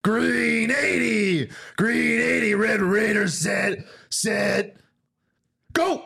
Green 80. Green 80. Red Raiders set, go.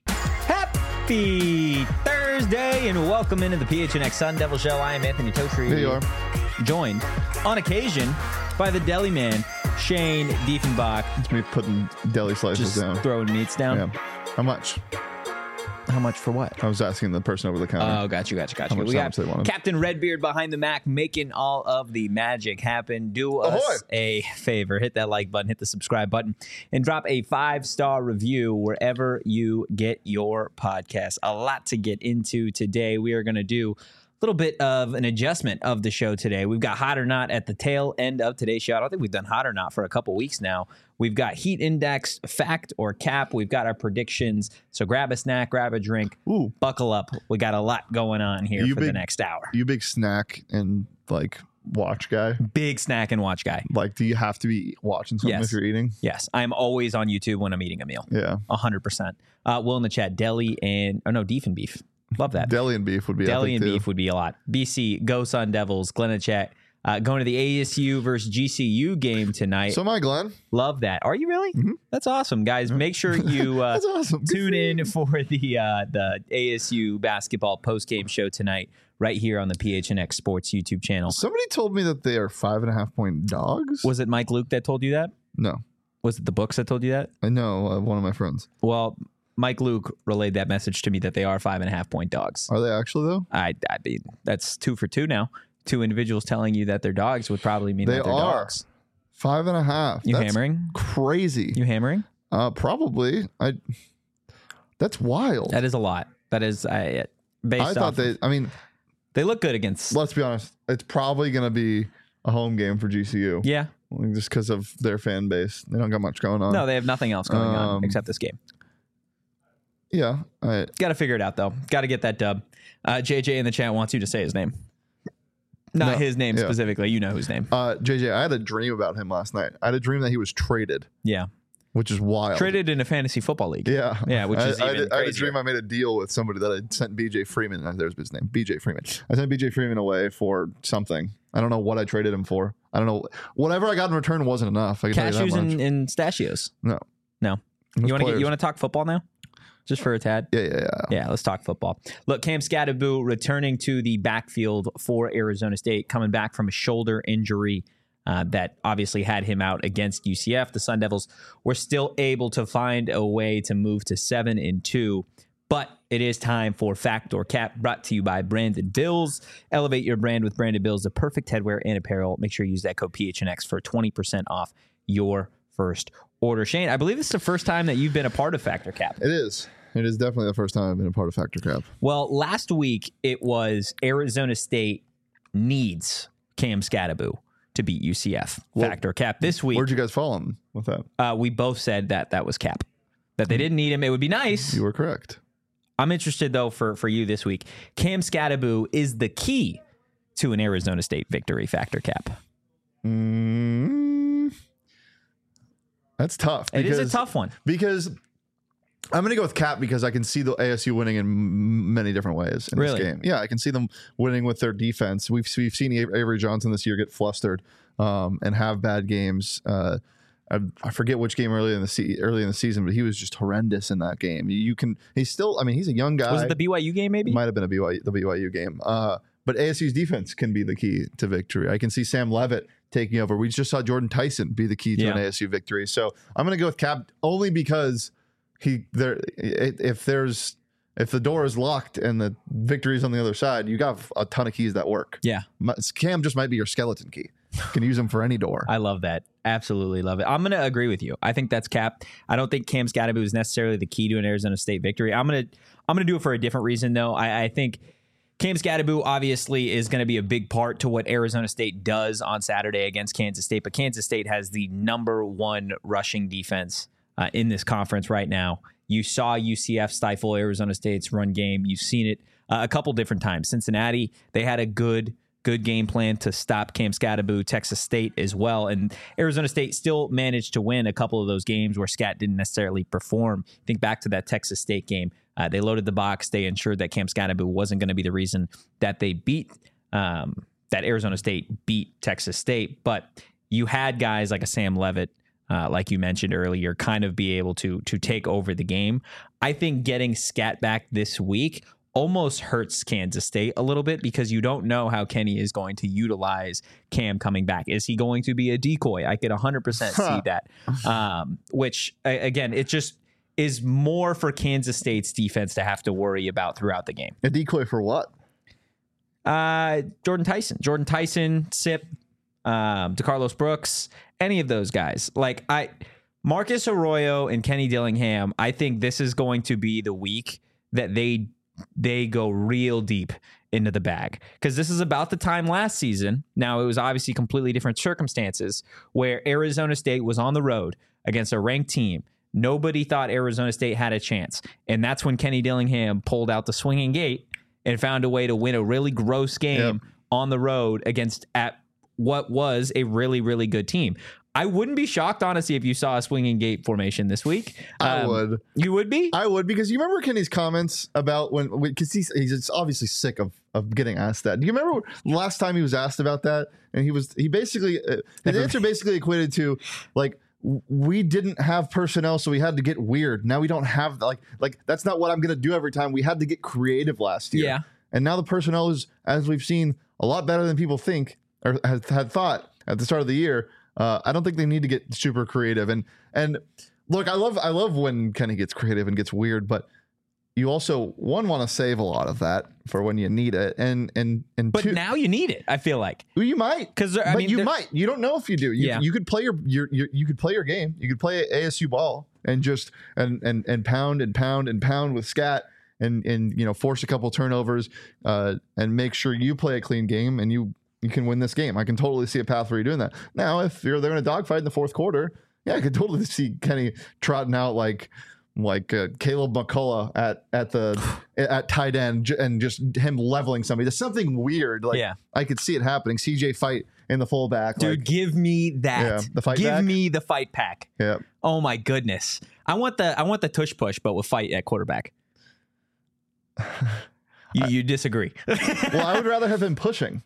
Happy Thursday and welcome into the PHNX Sun Devil Show. I am Anthony Totri. Here you are. Joined on occasion by the deli man, Shane Diefenbach. It's me putting deli slices Just down. throwing meats down. Yeah. How much? How much for what? I was asking the person over the counter. Oh, got you. How We much got they wanted. Captain Redbeard behind the Mac making all of the magic happen. Do us Ahoy. a favor. Hit that like button, hit the subscribe button, and drop a 5-star review wherever you get your podcast. A lot to get into today. We are going to do a little bit of an adjustment of the show today. We've got Hot or Not at the tail end of today's show. I don't think we've done Hot or Not for a couple weeks now. We've got Heat Index, Fact or Cap. We've got our predictions. So grab a snack, grab a drink, Ooh. buckle up. We got a lot going on here for the next hour. You big snack and like watch guy? Big snack and watch guy. Like, do you have to be watching something Yes. if you're eating? Yes, I'm always on YouTube when I'm eating a meal. Yeah. 100%. Will in the chat, deli and, beef and beef. Love that. Deli and beef would be Deli epic and too. beef would be a lot. BC, go Sun Devils. Glenn in chat. Going to the ASU versus GCU game tonight. So am I, Glenn. Love that. Are you really? Mhm. That's awesome, guys. Make sure you That's awesome. tune in for the ASU basketball postgame show tonight, right here on the PHNX Sports YouTube channel. Somebody told me that they are 5.5 point dogs. Was it Mike Luke that told you that? No, Was it the books that told you that? I know one of my friends. Well, Mike Luke relayed that message to me that they are 5.5 point dogs. Are they actually though? I mean, that's 2 for 2 now. 2 individuals telling you that they're dogs would probably mean They that they're are. dogs. 5.5. You That's hammering? crazy. You hammering? Probably. That's wild. That is a lot. That is based I off. thought They look good against. let's be honest, it's probably going to be a home game for GCU. Yeah. Just because of their fan base. They don't got much going on. No, they have nothing else going on except this game. Yeah. Got to figure it out, though. Got to get that dub. JJ in the chat wants you to say his name. Not No, his name yeah. specifically. You know whose name. JJ, I had a dream about him last night. I had a dream that he was traded, Yeah. which is wild. Traded in a fantasy football league. Yeah. Yeah, which is I even had a crazier. dream I made a deal with somebody that I sent BJ Freeman. There's his name, BJ Freeman. I sent BJ Freeman away for something. I don't know what I traded him for. I don't know. Whatever I got in return wasn't enough. I can tell you Cashews that much. and stachios. No. No. Those You want players- to talk football now? Just for a tad? Yeah. Yeah, let's talk football. Look, Cam Scatterbu returning to the backfield for Arizona State, coming back from a shoulder injury that obviously had him out against UCF. The Sun Devils were still able to find a way to move to 7-2, but it is time for Fact or Cap, brought to you by Branded Bills. Elevate your brand with Branded Bills, the perfect headwear and apparel. Make sure you use that code PHNX for 20% off your first order. Shane, I believe this is the first time that you've been a part of Fact or Cap. It is. It is definitely the first time I've been a part of Factor Cap. Well, last week it was Arizona State needs Cam Scatterbu to beat UCF. Well, Fact or Cap. This week, Where'd you guys fall on with that? we both said that was Cap. That they didn't need him. It would be nice. You were correct. I'm interested, though, for you this week. Cam Scatterbu is the key to an Arizona State victory. Fact or Cap. That's tough. It is a tough one. Because I'm going to go with Cap because I can see the ASU winning in many different ways in Really? this game. Yeah, I can see them winning with their defense. We've seen Avery Johnson this year get flustered and have bad games. I forget which game early in the season, but he was just horrendous in that game. He's still, I mean, he's a young guy. Was it the BYU game, maybe? Might have been the BYU game. But ASU's defense can be the key to victory. I can see Sam Levitt taking over. We just saw Jordan Tyson be the key to an ASU victory. So I'm going to go with Cap only because if the door is locked and the victory is on the other side, you got a ton of keys that work. Yeah. Cam just might be your skeleton key. You can use them for any door. I love that. Absolutely love it. I'm going to agree with you. I think that's Cap. I don't think Cam Scatterbu is necessarily the key to an Arizona State victory. I'm going to do it for a different reason, though. I think Cam Scatterbu obviously is going to be a big part to what Arizona State does on Saturday against Kansas State, but Kansas State has the #1 rushing defense in this conference right now. You saw UCF stifle Arizona State's run game. You've seen it a couple different times. Cincinnati, they had a good game plan to stop Cam Scatterbu. Texas State as well. And Arizona State still managed to win a couple of those games where Scat didn't necessarily perform. Think back to that Texas State game. They loaded the box. They ensured that Cam Scatterbu wasn't going to be the reason that they beat, that Arizona State beat Texas State. But you had guys like a Sam Levitt, like you mentioned earlier, kind of be able to take over the game. I think getting Scat back this week almost hurts Kansas State a little bit because you don't know how Kenny is going to utilize Cam coming back. Is he going to be a decoy? I could 100% see that. Which, again, it just is more for Kansas State's defense to have to worry about throughout the game. A decoy for what? Jordan Tyson, Sip, DeCarlos Brooks, any of those guys. Like Marcus Arroyo and Kenny Dillingham, I think this is going to be the week that they go real deep into the bag, because this is about the time last season. Now, it was obviously completely different circumstances where Arizona State was on the road against a ranked team. Nobody thought Arizona State had a chance. And that's when Kenny Dillingham pulled out the swinging gate and found a way to win a really gross game on the road against at what was a really, really good team. I wouldn't be shocked, honestly, if you saw a swinging gate formation this week. I would. You would be? I would, because you remember Kenny's comments about because he's obviously sick of getting asked that. Do you remember last time he was asked about that? And he basically, his answer basically equated to, like, we didn't have personnel, so we had to get weird. Now we don't have, like that's not what I'm going to do every time. We had to get creative last year. Yeah. And now the personnel is, as we've seen, a lot better than people think or had thought at the start of the year. I don't think they need to get super creative. And look, I love when Kenny gets creative and gets weird, but you also want to save a lot of that for when you need it. But now you need it. I feel like you might, you don't know if you do. You could play you could play your game. You could play ASU ball and just and pound with Scat and force a couple turnovers and make sure you play a clean game and you can win this game. I can totally see a path where you're doing that. Now, if they're in a dogfight in the fourth quarter, I could totally see Kenny trotting out like Caleb McCullough at tight end and just him leveling somebody. There's something weird. I could see it happening. CJ fight in the fullback. Dude, give me that. Yeah, the fight give back? me the fight pack. Yeah. Oh my goodness. I want the tush push, but with fight at quarterback. You disagree? Well, I would rather have him pushing.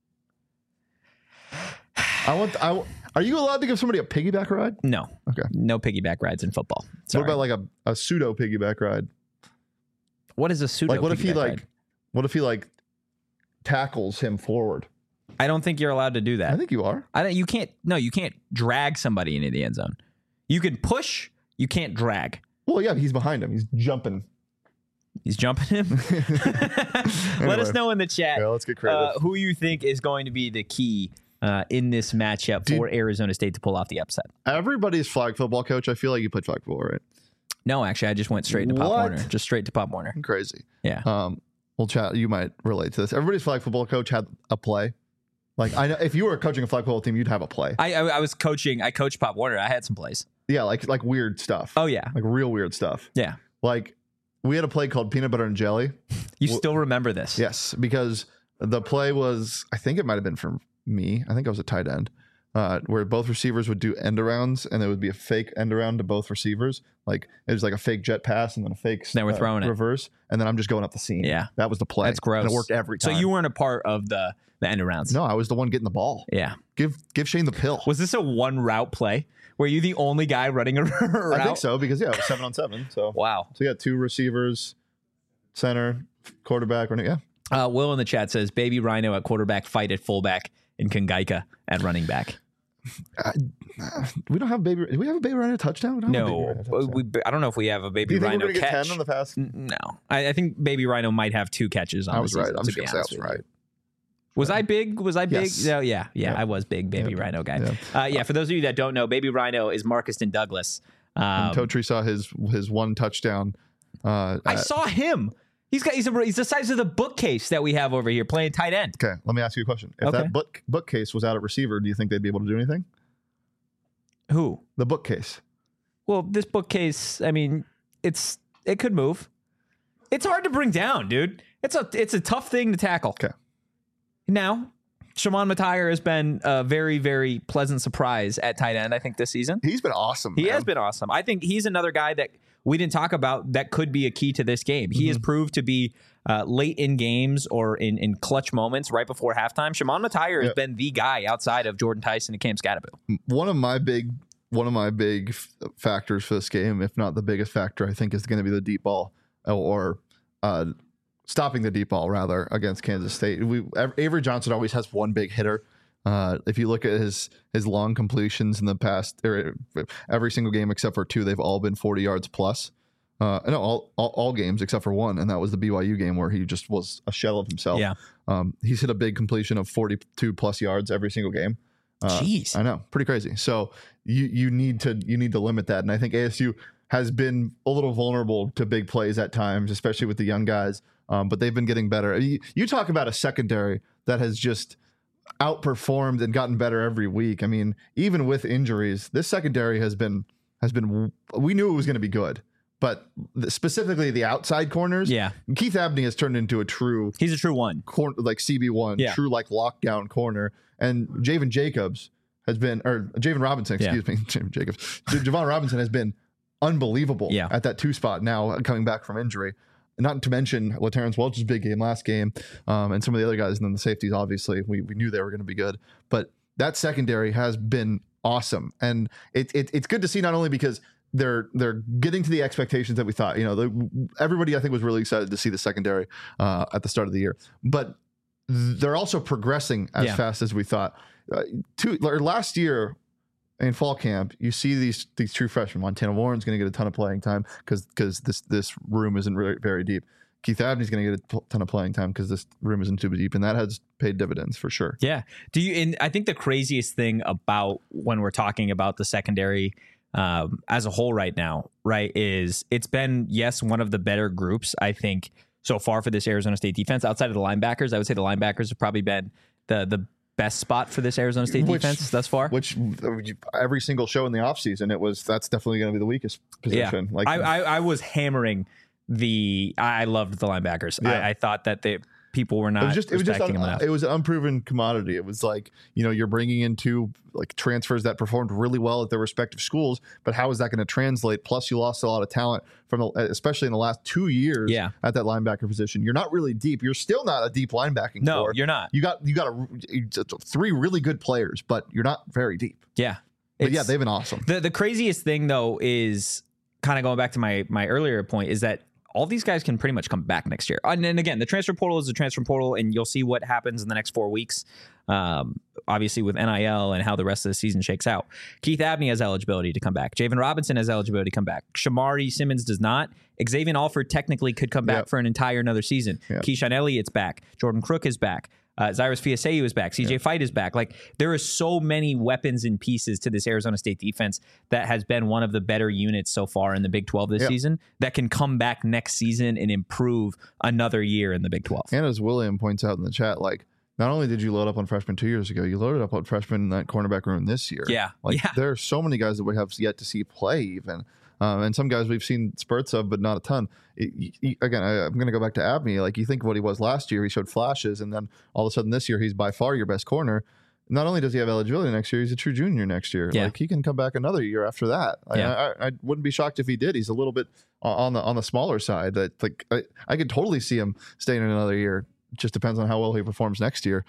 Are you allowed to give somebody a piggyback ride? No. Okay. No piggyback rides in football. Sorry. What about like a pseudo piggyback ride? What is a pseudo? Like what if he ride? What if he tackles him forward? I don't think you're allowed to do that. I think you are. You can't. No, you can't drag somebody into the end zone. You can push. You can't drag. Well, yeah, he's behind him. He's jumping. He's jumping him. Anyway. Let us know in the chat. Yeah, let's get creative. Who you think is going to be the key in this matchup for Arizona State to pull off the upset. Everybody's flag football coach. I feel like you played flag football, right? No, actually, I just went straight to Pop Warner. Just straight to Pop Warner. Crazy. Yeah. Well, chat. You might relate to this. Everybody's flag football coach had a play. Like I know, if you were coaching a flag football team, you'd have a play. I was coaching. I coached Pop Warner. I had some plays. Yeah, like weird stuff. Oh yeah, like real weird stuff. Yeah. Like we had a play called Peanut Butter and Jelly. You still remember this? Yes, because the play was, I think it might have been from me. I think I was a tight end, where both receivers would do end arounds, and there would be a fake end around to both receivers. Like it was like a fake jet pass and then a fake then we're throwing reverse, and then I'm just going up the seam. Yeah, that was the play. That's gross. And it worked every time. So you weren't a part of the end arounds? No, I was the one getting the ball. Yeah. Give Shane the pill. Was this a one route play? Were you the only guy running a route? I think so, because it was 7-on-7. So wow. So you got two receivers, center, quarterback, running. Yeah. Will in the chat says Baby Rhino at quarterback, fight at fullback, and Kangaika at running back. We don't have baby. Do we have a Baby Rhino touchdown? No, I don't know if we have a Baby Rhino catch. Get 10 on the pass? No, I think Baby Rhino might have 2 catches on I was the season, right. I'm just going to say I was right. Was I big? Was I big? Yes. No, yeah, I was big Baby Rhino guy. Yeah. For those of you that don't know, Baby Rhino is Marcuston Douglas. Totri saw his one touchdown. I saw him. He's the size of the bookcase that we have over here playing tight end. Okay, let me ask you a question. If that bookcase was out at receiver, do you think they'd be able to do anything? Who? The bookcase. Well, this bookcase, I mean, it could move. It's hard to bring down, dude. It's a tough thing to tackle. Okay. Now, Shimon Matire has been a very, very pleasant surprise at tight end, I think, this season. He's been awesome. He has been awesome. I think he's another guy that we didn't talk about that could be a key to this game. He has proved to be late in games or in clutch moments right before halftime, Shimon Matire has been the guy outside of Jordan Tyson and Cam Scatterbo. One of my big factors for this game, if not the biggest factor, I think is going to be the deep ball or stopping the deep ball rather against Kansas State. Avery Johnson always has one big hitter. If you look at his long completions in the past, every single game except for 2, they've all been 40 yards plus. No, all games except for 1, and that was the BYU game where he just was a shell of himself. Yeah. He's hit a big completion of 42 plus yards every single game. Jeez, I know, pretty crazy. So you need to limit that, and I think ASU has been a little vulnerable to big plays at times, especially with the young guys. But they've been getting better. You talk about a secondary that has just outperformed and gotten better every week. I mean, even with injuries, this secondary has been. We knew it was going to be good, but specifically the outside corners. Yeah, Keith Abney has turned into a true. He's a true one, like CB1, true like lockdown corner. And Javen Robinson, excuse me, Javen Jacobs. Javon Robinson has been unbelievable at that 2 spot now coming back from injury. Not to mention LaTerrence Welch's big game last game, and some of the other guys, and then the safeties. Obviously, we knew they were going to be good, but that secondary has been awesome, and it's good to see not only because they're getting to the expectations that we thought. Everybody I think was really excited to see the secondary at the start of the year, but they're also progressing as fast as we thought. Last year in fall camp, you see these true freshmen. Montana Warren's going to get a ton of playing time because this room isn't really very deep. Keith Abney's going to get a ton of playing time because this room isn't too deep, and that has paid dividends for sure. Yeah. And I think the craziest thing about when we're talking about the secondary as a whole right now, right, is it's been, one of the better groups, I think, so far for this Arizona State defense. Outside of the linebackers, I would say the linebackers have probably been the best spot for this Arizona State defense thus far. Which every single show in the offseason, that's definitely going to be the weakest position. Yeah. I was hammering I loved the linebackers. Yeah. I thought that people were not respecting them enough. It was an unproven commodity. It was like, you're bringing in 2 like transfers that performed really well at their respective schools, but how is that going to translate? Plus, you lost a lot of talent especially in the last 2 years at that linebacker position. You're not really deep. You're still not a deep linebacking core. You're not. You got 3 really good players, but you're not very deep. Yeah. But they've been awesome. The craziest thing though is kind of going back to my earlier point is that all these guys can pretty much come back next year. And again, the transfer portal is the transfer portal, and you'll see what happens in the next 4 weeks, obviously with NIL and how the rest of the season shakes out. Keith Abney has eligibility to come back. Javen Robinson has eligibility to come back. Shamari Simmons does not. Xavier Alford technically could come back for an entire another season. Keyshawn Elliott's back. Jordan Crook is back. Cyrus Fiaseu is back. CJ Fight is back. Like, there are so many weapons and pieces to this Arizona State defense that has been one of the better units so far in the Big 12 this season that can come back next season and improve another year in the Big 12. And as William points out in the chat, like, not only did you load up on freshmen 2 years ago, you loaded up on freshmen in that cornerback room this year. There are so many guys that we have yet to see play even. And some guys we've seen spurts of, but not a ton. Again, I'm going to go back to Abney. Like, you think of what he was last year, he showed flashes, and then all of a sudden this year, he's by far your best corner. Not only does he have eligibility next year, he's a true junior next year. Like, he can come back another year after that. I wouldn't be shocked if he did. He's a little bit on the smaller side. That, like, I could totally see him staying in another year. It just depends on how well he performs next year.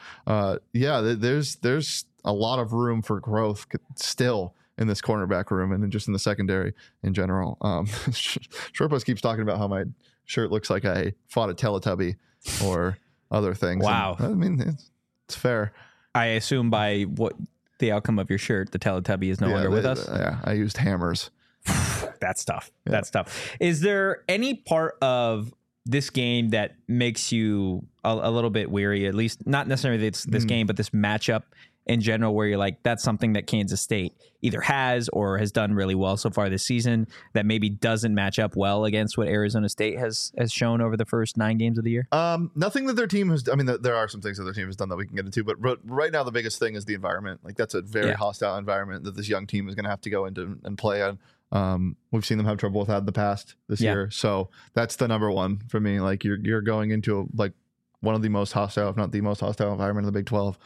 There's a lot of room for growth still in this cornerback room and just in the secondary in general. Sherpas keeps talking about how my shirt looks like I fought a Teletubby or other things. Wow. And, I mean, it's fair. I assume by what the outcome of your shirt, the Teletubby is no longer with us. Yeah, I used hammers. That's tough. Yeah. That's tough. Is there any part of this game that makes you a little bit weary, at least not necessarily this game, but this matchup in general, where you're like, that's something that Kansas State either has or has done really well so far this season that maybe doesn't match up well against what Arizona State has shown over the first 9 games of the year? Nothing that their team has. I mean, there are some things that their team has done that we can get into, but right now the biggest thing is the environment. Like, that's a very hostile environment that this young team is going to have to go into and play on. We've seen them have trouble with that in the past this year, so that's the number one for me. Like, you're going into like one of the most hostile, if not the most hostile environment in the Big 12.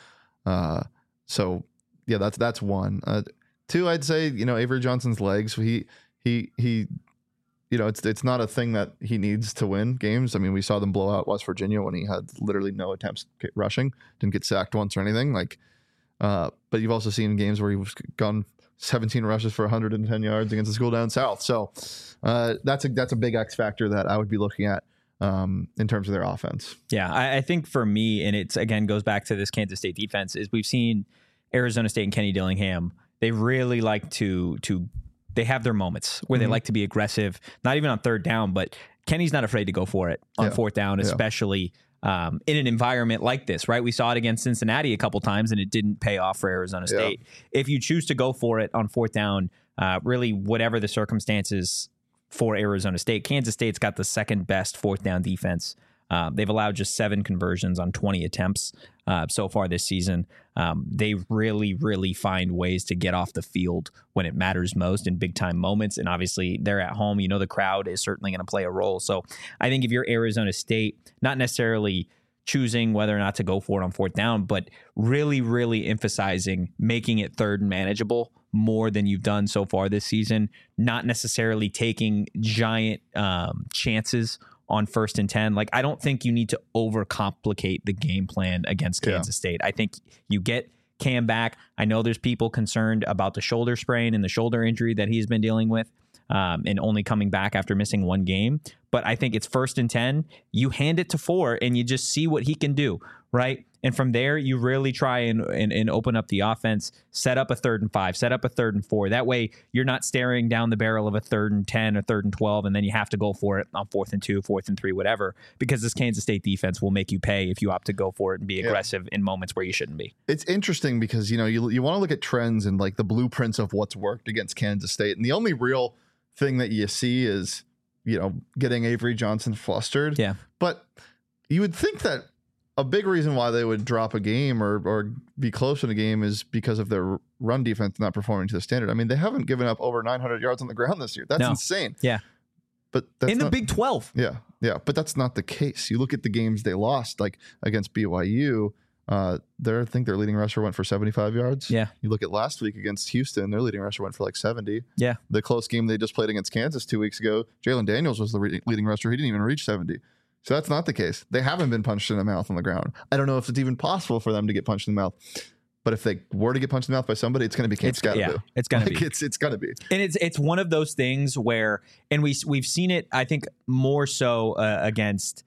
So yeah, that's one. 2, I'd say, Avery Johnson's legs. He it's not a thing that he needs to win games. I mean, we saw them blow out West Virginia when he had literally no attempts rushing, didn't get sacked once or anything. But you've also seen games where he's gone 17 rushes for 110 yards against the school down south. So that's a big X factor that I would be looking at in terms of their offense. Yeah, I think for me, and it's again goes back to this Kansas State defense, is we've seen Arizona State and Kenny Dillingham. They really like to they have their moments where they like to be aggressive, not even on third down, but Kenny's not afraid to go for it on fourth down, especially in an environment like this, right? We saw it against Cincinnati a couple times and it didn't pay off for Arizona State. If you choose to go for it on fourth down, really whatever the circumstances for Arizona State, Kansas State's got the second best fourth down defense. They've allowed just 7 conversions on 20 attempts so far this season. They really, really find ways to get off the field when it matters most in big time moments. And obviously they're at home. The crowd is certainly going to play a role. So I think if you're Arizona State, not necessarily choosing whether or not to go for it on fourth down, but really, really emphasizing making it third and manageable more than you've done so far this season, not necessarily taking giant chances on 1st and 10. Like, I don't think you need to overcomplicate the game plan against Kansas State. I think you get Cam back. I know there's people concerned about the shoulder sprain and the shoulder injury that he's been dealing with and only coming back after missing 1 game. But I think it's 1st and 10. You hand it to 4 and you just see what he can do, right? And from there, you really try and open up the offense, set up a 3rd and 5, set up a 3rd and 4. That way, you're not staring down the barrel of a 3rd and 10 or 3rd and 12, and then you have to go for it on 4th and 2, 4th and 3, whatever, because this Kansas State defense will make you pay if you opt to go for it and be aggressive in moments where you shouldn't be. It's interesting because, you want to look at trends and like the blueprints of what's worked against Kansas State. And the only real thing that you see is, getting Avery Johnson flustered. Yeah. But you would think that a big reason why they would drop a game or be close in a game is because of their run defense not performing to the standard. I mean, they haven't given up over 900 yards on the ground this year. That's insane. Yeah. But that's in the Big 12. Yeah. Yeah. But that's not the case. You look at the games they lost, like against BYU, I think their leading rusher went for 75 yards. Yeah. You look at last week against Houston, their leading rusher went for like 70. Yeah. The close game they just played against Kansas 2 weeks ago, Jalen Daniels was the leading rusher. He didn't even reach 70. So that's not the case. They haven't been punched in the mouth on the ground. I don't know if it's even possible for them to get punched in the mouth. But if they were to get punched in the mouth by somebody, it's going to be Cam Scatterbo. Yeah, it's going to be. It's going to be. And it's one of those things where, and we've seen it, I think, more so against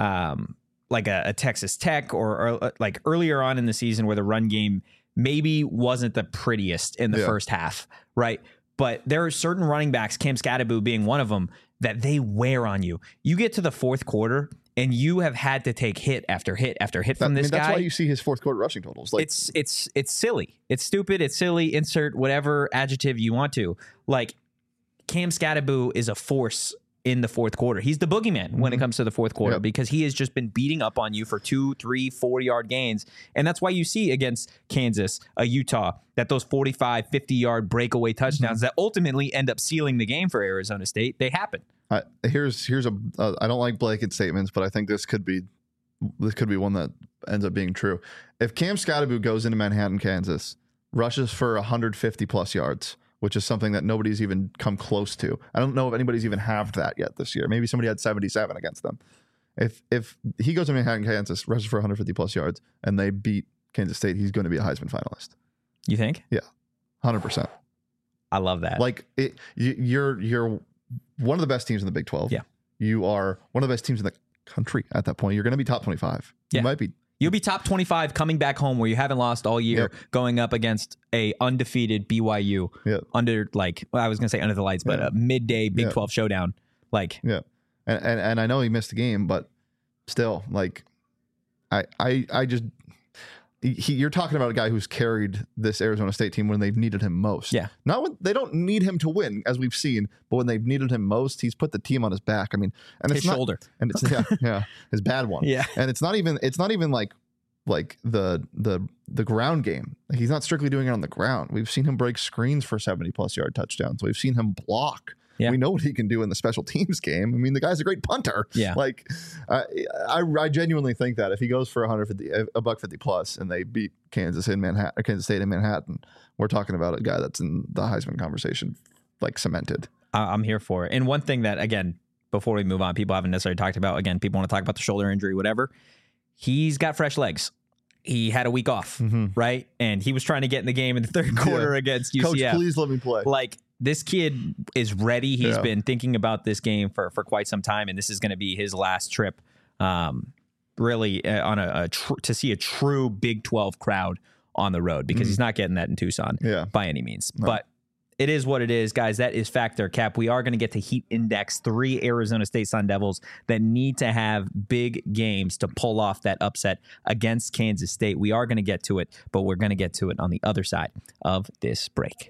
like a Texas Tech or like earlier on in the season where the run game maybe wasn't the prettiest in the first half, right? But there are certain running backs, Cam Scatterbo being one of them, that they wear on you. You get to the fourth quarter and you have had to take hit after hit after hit from this guy. That's why you see his fourth quarter rushing totals. Like, it's silly. It's stupid. It's silly. Insert whatever adjective you want to. Like, Cam Scatterbo is a force in the fourth quarter. He's the boogeyman when it comes to the fourth quarter because he has just been beating up on you for 2, 3, 4-yard gains. And that's why you see against Kansas, Utah, that those 45, 50-yard breakaway touchdowns that ultimately end up sealing the game for Arizona State, they happen. Here's a I don't like blanket statements, but I think this could be one that ends up being true. If Cam Scatterbo goes into Manhattan, Kansas, rushes for 150 plus yards, which is something that nobody's even come close to. I don't know if anybody's even halved that yet this year. Maybe somebody had 77 against them. If he goes to Manhattan, Kansas, rushes for 150 plus yards, and they beat Kansas State, he's going to be a Heisman finalist. You think? Yeah, 100%. I love that. Like you're one of the best teams in the Big 12. Yeah, you are one of the best teams in the country at that point. You're going to be top 25. Yeah. You might be. You'll be top 25 coming back home where you haven't lost all year, going up against a undefeated BYU under under the lights, but a midday Big 12 showdown. Like, and I know he missed the game, but still, like, you're talking about a guy who's carried this Arizona State team when they've needed him most. Yeah, not when they don't need him to win, as we've seen, but when they've needed him most, he's put the team on his back. I mean, and his shoulder, and it's his bad one. Yeah, and it's not even like the ground game. Like, he's not strictly doing it on the ground. We've seen him break screens for 70+ yard touchdowns. We've seen him block. Yeah. We know what he can do in the special teams game. I mean, the guy's a great punter. Yeah. Like, I genuinely think that if he goes for $150 plus and they beat Kansas State in Manhattan, we're talking about a guy that's in the Heisman conversation, like, cemented. I'm here for it. And one thing that, again, before we move on, people haven't necessarily talked about, again, people want to talk about the shoulder injury, whatever. He's got fresh legs. He had a week off, right? And he was trying to get in the game in the third quarter against UCF. Coach, please let me play. Like, this kid is ready. He's been thinking about this game for quite some time, and this is going to be his last trip, really, on to see a true Big 12 crowd on the road, because he's not getting that in Tucson by any means. No. But it is what it is, guys. That is factor, Cap. We are going to get to Heat Index 3 Arizona State Sun Devils that need to have big games to pull off that upset against Kansas State. We are going to get to it, but we're going to get to it on the other side of this break.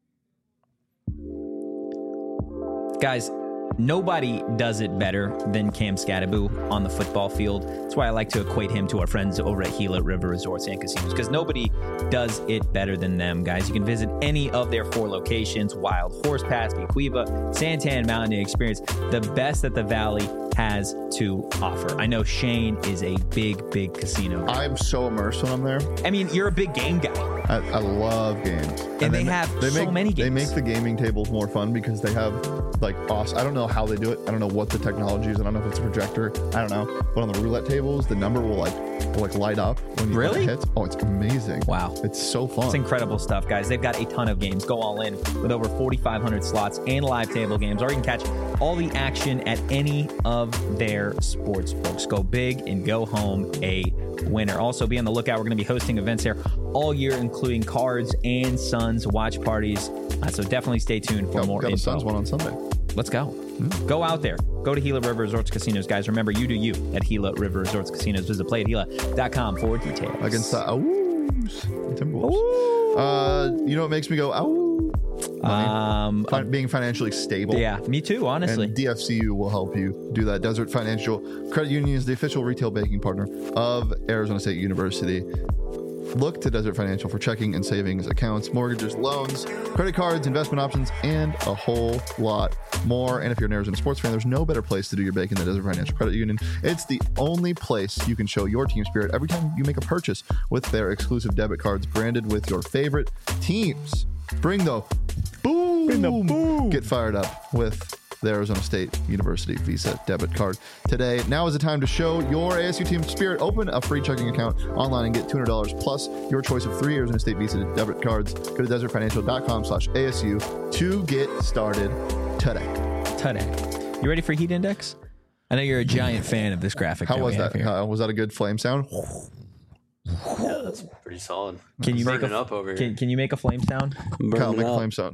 Guys, nobody does it better than Cam Skattebo on the football field. That's why I like to equate him to our friends over at Gila River Resorts and Casinos, because nobody does it better than them, guys. You can visit any of their 4 locations: Wild Horse Pass, Bequiva, Santan Mountain, and experience the best that the Valley has to offer. I know Shane is a big casino guy. I'm so immersed when I'm there. I mean, you're a big game guy. I love games. And they have so many games. They make the gaming tables more fun because they have, like, awesome. I don't know how they do it. I don't know what the technology is. I don't know if it's a projector. I don't know. But on the roulette tables, the number will light up when you hit. Oh, it's amazing. Wow. It's so fun. It's incredible stuff, guys. They've got a ton of games. Go all in with over 4,500 slots and live table games, or you can catch all the action at any of their sports books. Go big and go home a winner. Also, be on the lookout. We're going to be hosting events here all year, including Cards and Suns watch parties. So definitely stay tuned for more info. Got a Suns one on Sunday. Let's go. Go out there. Go to Gila River Resorts Casinos, guys. Remember, you do you at Gila River Resorts Casinos. Visit playatgila.com for details. Against the Timberwolves. You know what makes me go, being financially stable. Yeah, me too, honestly. And DFCU will help you do that. Desert Financial Credit Union is the official retail banking partner of Arizona State University. Look to Desert Financial for checking and savings accounts, mortgages, loans, credit cards, investment options, and a whole lot more. And if you're an Arizona sports fan, there's no better place to do your banking than Desert Financial Credit Union. It's the only place you can show your team spirit every time you make a purchase with their exclusive debit cards branded with your favorite teams. Bring the boom. Get fired up with the Arizona State University Visa debit card today. Now is the time to show your ASU team spirit. Open a free checking account online and get $200 plus your choice of 3 Arizona State Visa debit cards. Go to desertfinancial.com/ASU to get started today. You ready for Heat Index? I know you're a giant fan of this graphic. How was that? Was that a good flame sound? Yeah, that's pretty solid. Can you make up over here? Can you make a flame sound? Kyle, make a flame sound.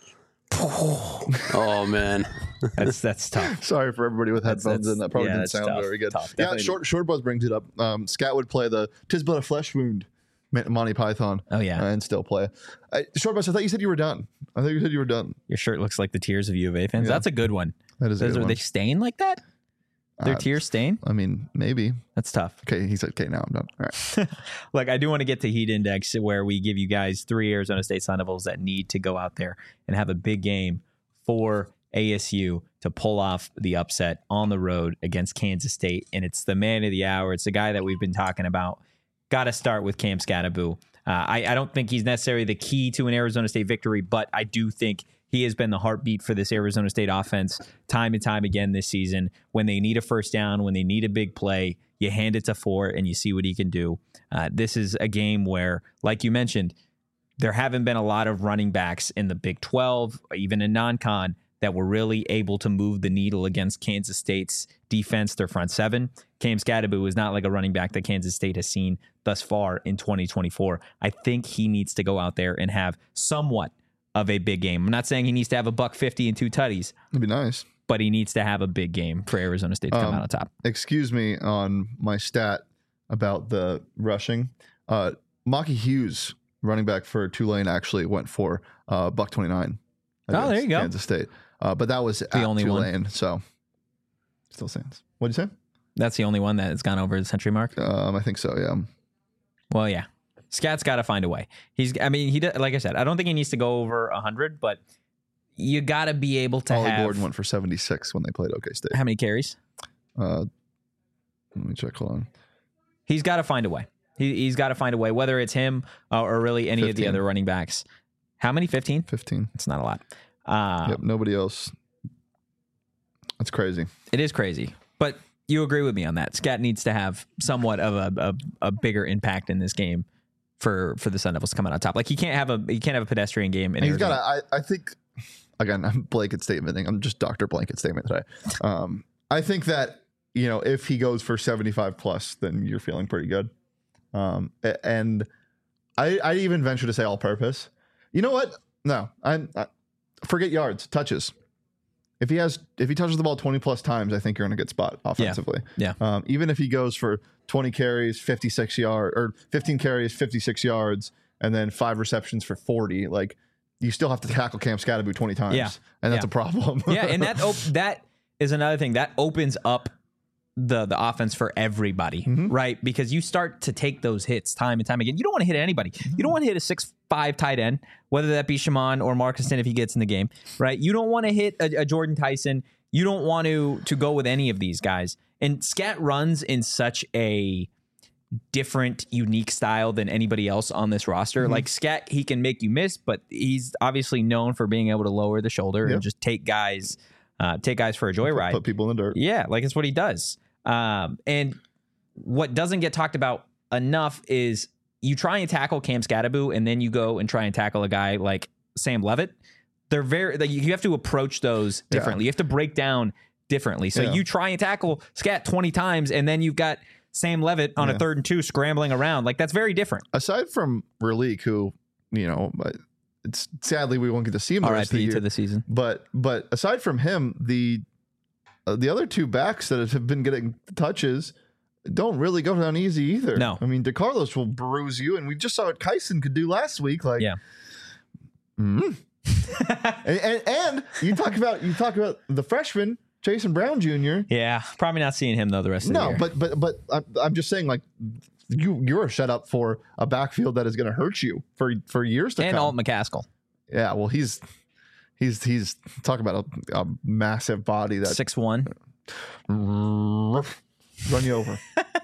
Oh man, that's tough. Sorry for everybody with headphones in. That probably didn't sound very good. Yeah, Short Buzz brings it up. Scat would play the "'Tis but a flesh wound" Monty Python. Oh yeah, and still play. Short Buzz, I thought you said you were done. Your shirt looks like the tears of U of A fans. Yeah. That's a good one. That is a good one. Are they staying like that? Their tears stain? I mean, maybe. That's tough. Okay, he said, okay, now I'm done. All right. Look, I do want to get to Heat Index, where we give you guys 3 Arizona State Sun Devils that need to go out there and have a big game for ASU to pull off the upset on the road against Kansas State. And it's the man of the hour. It's the guy that we've been talking about. Got to start with Cam Skattebo. I don't think he's necessarily the key to an Arizona State victory, but I do think he has been the heartbeat for this Arizona State offense time and time again this season. When they need a first down, when they need a big play, you hand it to Fort and you see what he can do. This is a game where, like you mentioned, there haven't been a lot of running backs in the Big 12, or even in non-con, that were really able to move the needle against Kansas State's defense, their front seven. Cam Skattebo is not like a running back that Kansas State has seen thus far in 2024. I think he needs to go out there and have somewhat of a big game. I'm not saying he needs to have a $150 and 2 tutties. That'd be nice. But he needs to have a big game for Arizona State to come out on top. Excuse me on my stat about the rushing. Maki Hughes, running back for Tulane, actually went for $129. Oh, there you go. Kansas State. But that was the only Tulane, one. So still stands. What'd you say? That's the only one that has gone over the century mark? I think so, yeah. Well, yeah. Scat's got to find a way. He like I said, I don't think he needs to go over 100, but you got to be able to Ollie have. Gordon went for 76 when they played OK State. How many carries? Let me check. Hold on. He's got to find a way. He's got to find a way, whether it's him or really any 15. of the other running backs. How many? 15? 15. It's not a lot. Yep, nobody else. That's crazy. It is crazy, but you agree with me on that. Scat needs to have somewhat of a bigger impact in this game for the Sun Devils coming on top. Like he can't have a pedestrian game. He's got. I think again, I'm blanket statementing. I'm just Dr. Blanket statement today. I think that if he goes for 75 plus, then you're feeling pretty good. And I even venture to say all purpose. You know what? No, I forget yards, touches. If he touches the ball 20 plus times, I think you're in a good spot offensively. Yeah. Even if he goes for 20 carries, 56 yards, or 15 carries, 56 yards, and then 5 receptions for 40, like you still have to tackle Cam Scatterby 20 times. Yeah. And that's a problem. Yeah. And that is another thing that opens up the offense for everybody, right? Because you start to take those hits time and time again. You don't want to hit anybody. You don't want to hit a 6'5" tight end, whether that be Shaman or Marcuston if he gets in the game, right? You don't want to hit a Jordan Tyson. You don't want to go with any of these guys. And Scat runs in such a different, unique style than anybody else on this roster. Like Scat, he can make you miss, but he's obviously known for being able to lower the shoulder and just take guys for a joyride. Put people in the dirt. Yeah, like it's what he does. And what doesn't get talked about enough is you try and tackle Cam Scatterby and then you go and try and tackle a guy like Sam Levitt. They're you have to approach those differently. You have to break down differently. So you try and tackle Scat 20 times and then you've got Sam Levitt on a 3rd and 2 scrambling around. Like that's very different. Aside from Raleek, who, it's sadly we won't get to see him the rest of the year to the season. But aside from him, the other 2 backs that have been getting touches don't really go down easy either. No. I mean, DeCarlos will bruise you, and we just saw what Kyson could do last week. Like, and you talk about the freshman Jason Brown Jr. Yeah, probably not seeing him though the rest of the year. No, but I'm just saying, like, you're set up for a backfield that is going to hurt you for years to come. And Alt McCaskill. Yeah, well, he's talking about a massive body that 6'1". Run you over.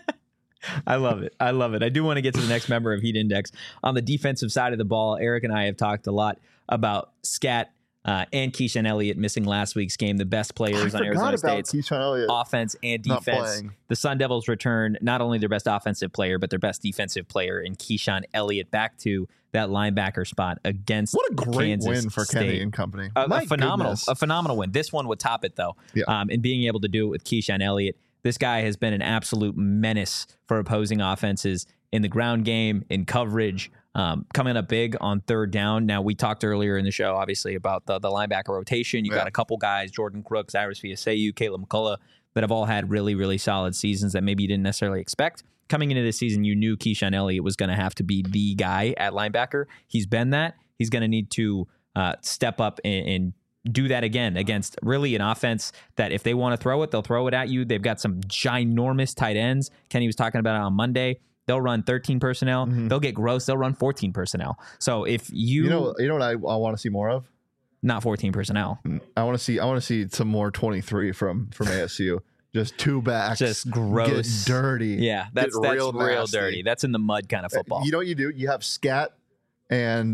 I love it. I do want to get to the next member of Heat Index. On the defensive side of the ball, Eric and I have talked a lot about Scat and Keyshawn Elliott missing last week's game, the best players on Arizona State's offense and defense. The Sun Devils return not only their best offensive player, but their best defensive player in Keyshawn Elliott back to that linebacker spot against what a great Kansas win for State. Kenny and company. A phenomenal win. This one would top it though. Yeah. And being able to do it with Keyshawn Elliott. This guy has been an absolute menace for opposing offenses in the ground game, in coverage, coming up big on 3rd down. Now, we talked earlier in the show, obviously, about the linebacker rotation. You got a couple guys, Jordan Crooks, Iris Viaseyu, Caleb McCullough, that have all had really, really solid seasons that maybe you didn't necessarily expect. Coming into this season, you knew Keyshawn Elliott was going to have to be the guy at linebacker. He's been that. He's going to need to step up and do that again against really an offense that if they want to throw it, they'll throw it at you. They've got some ginormous tight ends. Kenny was talking about it on Monday. They'll run 13 personnel. They'll get gross. They'll run 14 personnel. So if you know what I want to see more of? Not 14 personnel. I want to see some more 23 from ASU. Just 2 backs. Just gross. Get dirty. Yeah, that's real dirty. That's in the mud kind of football. You know what you do? You have Scat and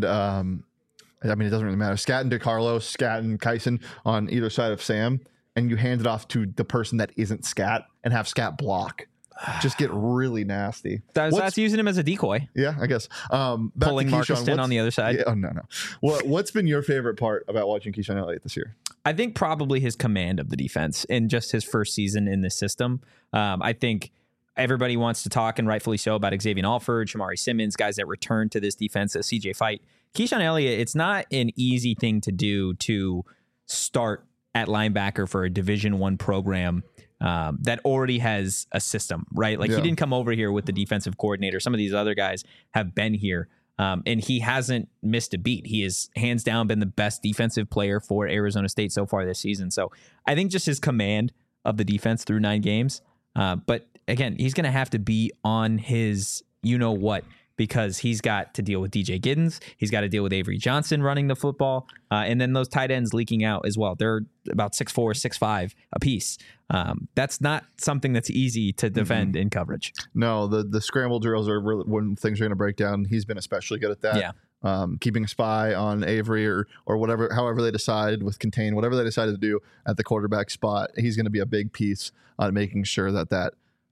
I mean, it doesn't really matter. Scat and DeCarlos, Scat and Kyson on either side of Sam, and you hand it off to the person that isn't Scat and have Scat block. Just get really nasty. That's using him as a decoy. Yeah, I guess. Pulling Marcuston on the other side. Yeah, oh, no. What's been your favorite part about watching Keyshawn Elliott this year? I think probably his command of the defense in just his first season in the system. I think everybody wants to talk, and rightfully so, about Xavier Alford, Shamari Simmons, guys that return to this defense, CJ Fight. Keyshawn Elliott, it's not an easy thing to do to start at linebacker for a Division I program that already has a system, right? Like he didn't come over here with the defensive coordinator. Some of these other guys have been here, and he hasn't missed a beat. He has hands down been the best defensive player for Arizona State so far this season. So I think just his command of the defense through 9 games. But again, he's going to have to be on his you-know-what, because he's got to deal with DJ Giddens. He's got to deal with Avery Johnson running the football. And then those tight ends leaking out as well. They're about 6'4", 6'5" apiece. That's not something that's easy to defend in coverage. No, the scramble drills are really when things are going to break down. He's been especially good at that. Yeah. keeping a spy on Avery or whatever, however they decided with Contain, whatever they decided to do at the quarterback spot, he's going to be a big piece on making sure that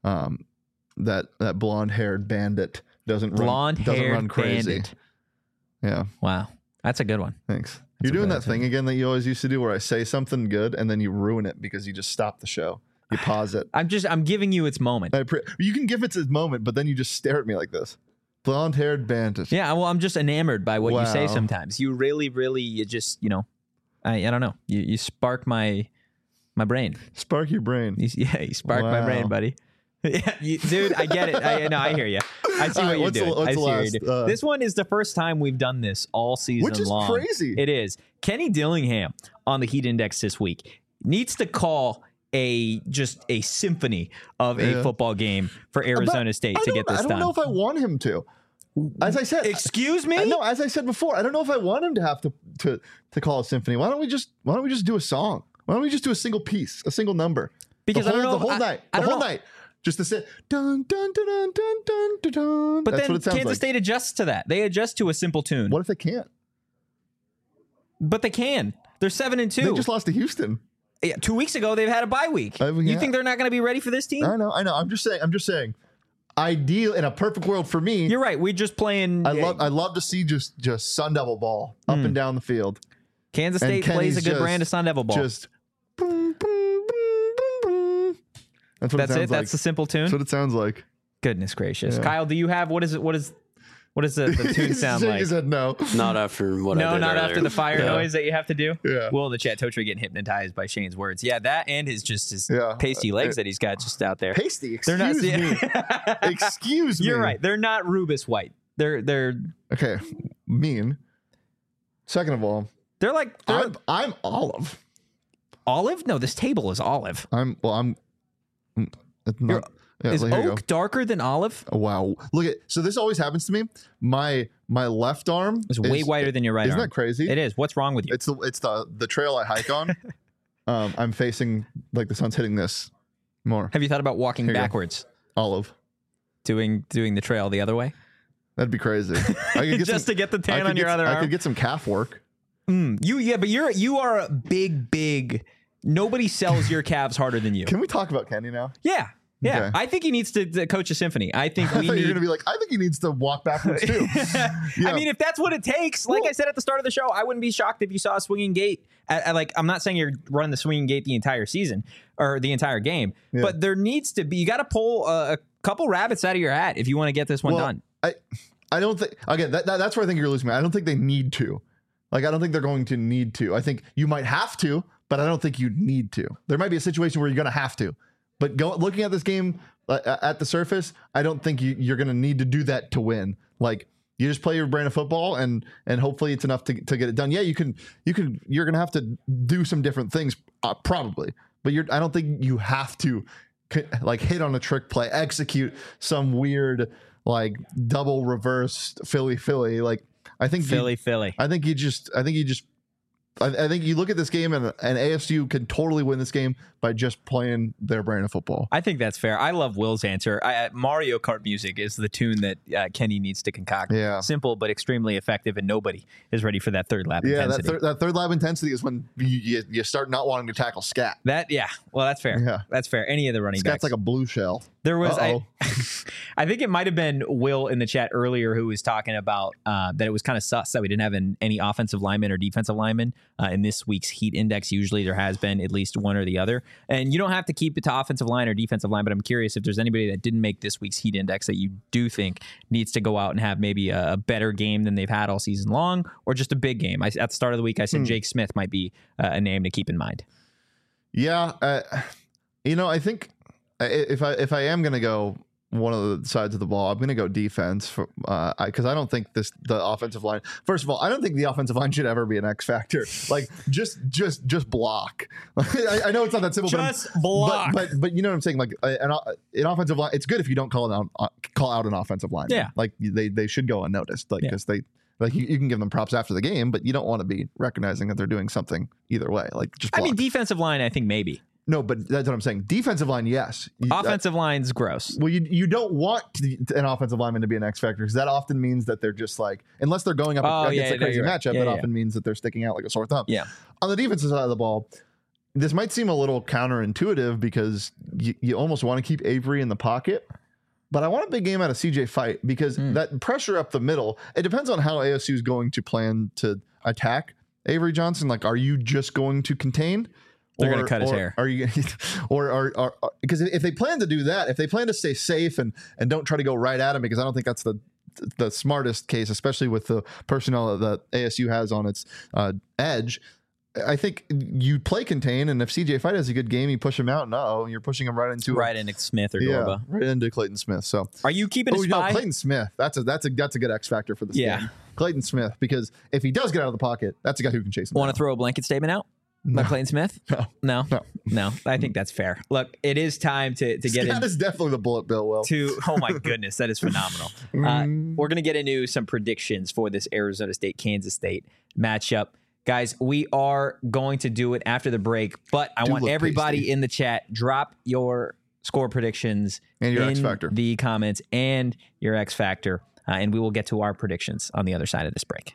blonde-haired bandit doesn't run crazy. Bandit. Yeah. Wow. That's a good one. Thanks. You're doing that thing again that you always used to do where I say something good and then you ruin it because you just stop the show. You pause it. I'm giving you its moment. You can give it its moment, but then you just stare at me like this. Blonde-haired bandit. Yeah, well, I'm just enamored by what you say Wow. sometimes. You really, you just, I don't know. You spark my brain. Spark your brain. You spark my brain, Wow. buddy. Yeah, dude, I get it. I hear you. I see All what right, you're doing. what's I see the what last, you're doing. This one is the first time we've done this all season Which is long. crazy. It is. Kenny Dillingham on the Heat Index this week needs to call a symphony of a football game for Arizona State to get this done. I don't know if I want him to. As I said, Excuse me? No, as I said before, I don't know if I want him to have to call a symphony. Why don't we just do a song? Why don't we just do a single piece, a single number? Because the whole, I don't know. the whole night, the whole night, just to say dun dun dun dun dun dun dun. Dun. But That's then what it sounds Kansas like. State adjusts to that. They adjust to a simple tune. What if they can't? But they can. They're 7-2. They just lost to Houston. Yeah, 2 weeks ago, they've had a bye week. Yeah. You think they're not going to be ready for this team? I know. I'm just saying. Ideal in a perfect world for me. You're right. We're just playing. I love to see just Sun Devil ball up and down the field. Kansas And State plays a Kenny's good brand of Sun Devil ball. Just boom, boom, boom, boom, boom. That's what That's it sounds it. like. That's the simple tune. That's what it sounds like. Goodness gracious, Yeah. Kyle, do you have what does the tune sound He like? said no. Not after what I No, did not earlier. after the fire Yeah. noise that you have to do. Yeah. Will in the chat, Totri getting hypnotized by Shane's words. Yeah, that and his Yeah. pasty legs that he's got just out there. Pasty. They're not. Excuse me. Excuse me. You're right. They're not Rubus white. They're Okay. Mean. Second of all, like I'm olive. olive. No, this table is olive. It's not, yeah, Is here you go. oak darker than olive? Oh, wow. Look at so this always happens to me. My left arm It's way whiter than your right Isn't arm. that crazy? It is. What's wrong with you? It's the trail I hike on. I'm facing like the sun's hitting this more. Have you thought about walking Here you go. backwards, Olive. doing the trail the other way, That'd be crazy. I could get just some, to get the I tan could on your get- other I arm? could get some calf work. But you are a big. Nobody sells your calves harder than you. Can we talk about Kenny now? Yeah. Okay. I think he needs to coach a symphony. I think I we thought you were need. gonna be like, I think he needs to walk backwards too. Yeah. I mean, if that's what it takes, like I said at the start of the show, I wouldn't be shocked if you saw a swinging gate. I'm not saying you're running the swinging gate the entire season or the entire game, but there needs to be. You got to pull a couple rabbits out of your hat if you want to get this one done. I don't think again. That's where I think you're losing me. I don't think they need to. Like, I don't think they're going to need to. I think you might have to, but I don't think you need to. There might be a situation where you're going to have to. But looking at this game at the surface, I don't think you're going to need to do that to win. Like, you just play your brand of football, and hopefully it's enough to get it done. Yeah, you're going to have to do some different things, probably. But I don't think you have to like hit on a trick play, execute some weird like double reverse Philly. Like, I think Philly. I think you look at this game and ASU can totally win this game by just playing their brand of football. I think that's fair. I love Will's answer. Mario Kart music is the tune that Kenny needs to concoct. Yeah. Simple but extremely effective, and nobody is ready for that third lap Yeah, intensity. that third lap intensity is when you start not wanting to tackle scat. Well, that's fair. Yeah. That's fair. Any of the running Scat's backs. like a blue shell. There was, Uh-oh. I think it might have been Will in the chat earlier who was talking about that it was kind of sus that we didn't have any offensive linemen or defensive linemen in this week's Heat Index. Usually there has been at least one or the other. And you don't have to keep it to offensive line or defensive line, but I'm curious if there's anybody that didn't make this week's Heat Index that you do think needs to go out and have maybe a better game than they've had all season long, or just a big game. At the start of the week, I said Jake Smith might be a name to keep in mind. Yeah, I think if I am going to go one of the sides of the ball, I'm going to go defense because I don't think the offensive line. First of all, I don't think the offensive line should ever be an X factor. Like just block. I know it's not that simple. Just block. But you know what I'm saying. Like an offensive line, it's good if you don't call out an offensive line. Yeah. Like they should go unnoticed. Like because they. Like you can give them props after the game, but you don't want to be recognizing that they're doing something either way. Like just block. I mean, defensive line, I think maybe. No, but that's what I'm saying. Defensive line, yes. Offensive line's gross. Well, you don't want an offensive lineman to be an X factor because that often means that they're just like, unless they're going up against a crazy matchup, that often means that they're sticking out like a sore thumb. Yeah. On the defensive side of the ball, this might seem a little counterintuitive because you almost want to keep Avery in the pocket. But I want a big game out of CJ Fight because that pressure up the middle, it depends on how ASU is going to plan to attack Avery Johnson. Like, are you just going to contain? They're going to cut his hair. Are you, or because if they plan to do that, if they plan to stay safe and don't try to go right at him, because I don't think that's the smartest case, especially with the personnel that ASU has on its edge. I think you play contain, and if CJ Fight has a good game, you push him out. No, you're pushing him right into Smith or Dorba. Right into Clayton Smith. So, are you keeping a spy? Clayton Smith. That's a good X factor for this game. Clayton Smith, because if he does get out of the pocket, that's a guy who can chase him. Want to throw a blanket statement out? No. By Clayton Smith? No. I think that's fair. Look, it is time to get in. That is definitely the bullet bill, Will. Oh my goodness, that is phenomenal. We're going to get into some predictions for this Arizona State-Kansas State matchup. Guys, we are going to do it after the break, but I want everybody tasty in the chat, drop your score predictions and your X Factor, the comments, and your X Factor, and we will get to our predictions on the other side of this break.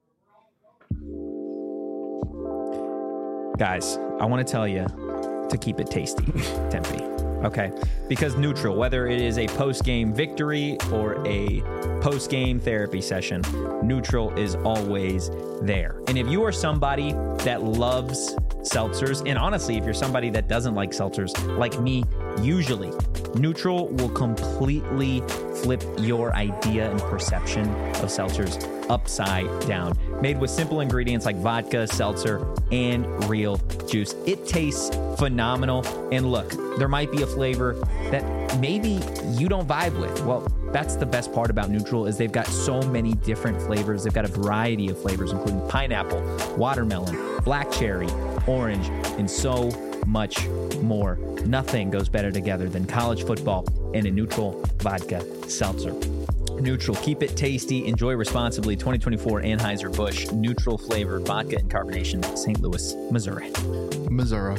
Guys, I want to tell you to keep it tasty, Tempe. Okay? Because Neutral, whether it is a post-game victory or a post-game therapy session, Neutral is always there. And if you are somebody that loves seltzers, and honestly, if you're somebody that doesn't like seltzers, like me, usually, Neutral will completely flip your idea and perception of seltzers upside down. Made with simple ingredients like vodka, seltzer, and real juice. It tastes phenomenal. And look, there might be a flavor that maybe you don't vibe with. Well, that's the best part about Neutral is they've got so many different flavors. They've got a variety of flavors, including pineapple, watermelon, black cherry, orange, and so much more. Nothing goes better together than college football and a Neutral vodka seltzer. Neutral, keep it tasty, enjoy responsibly. 2024 Anheuser-Busch Neutral flavored vodka and carbonation, St. Louis, Missouri. Missouri.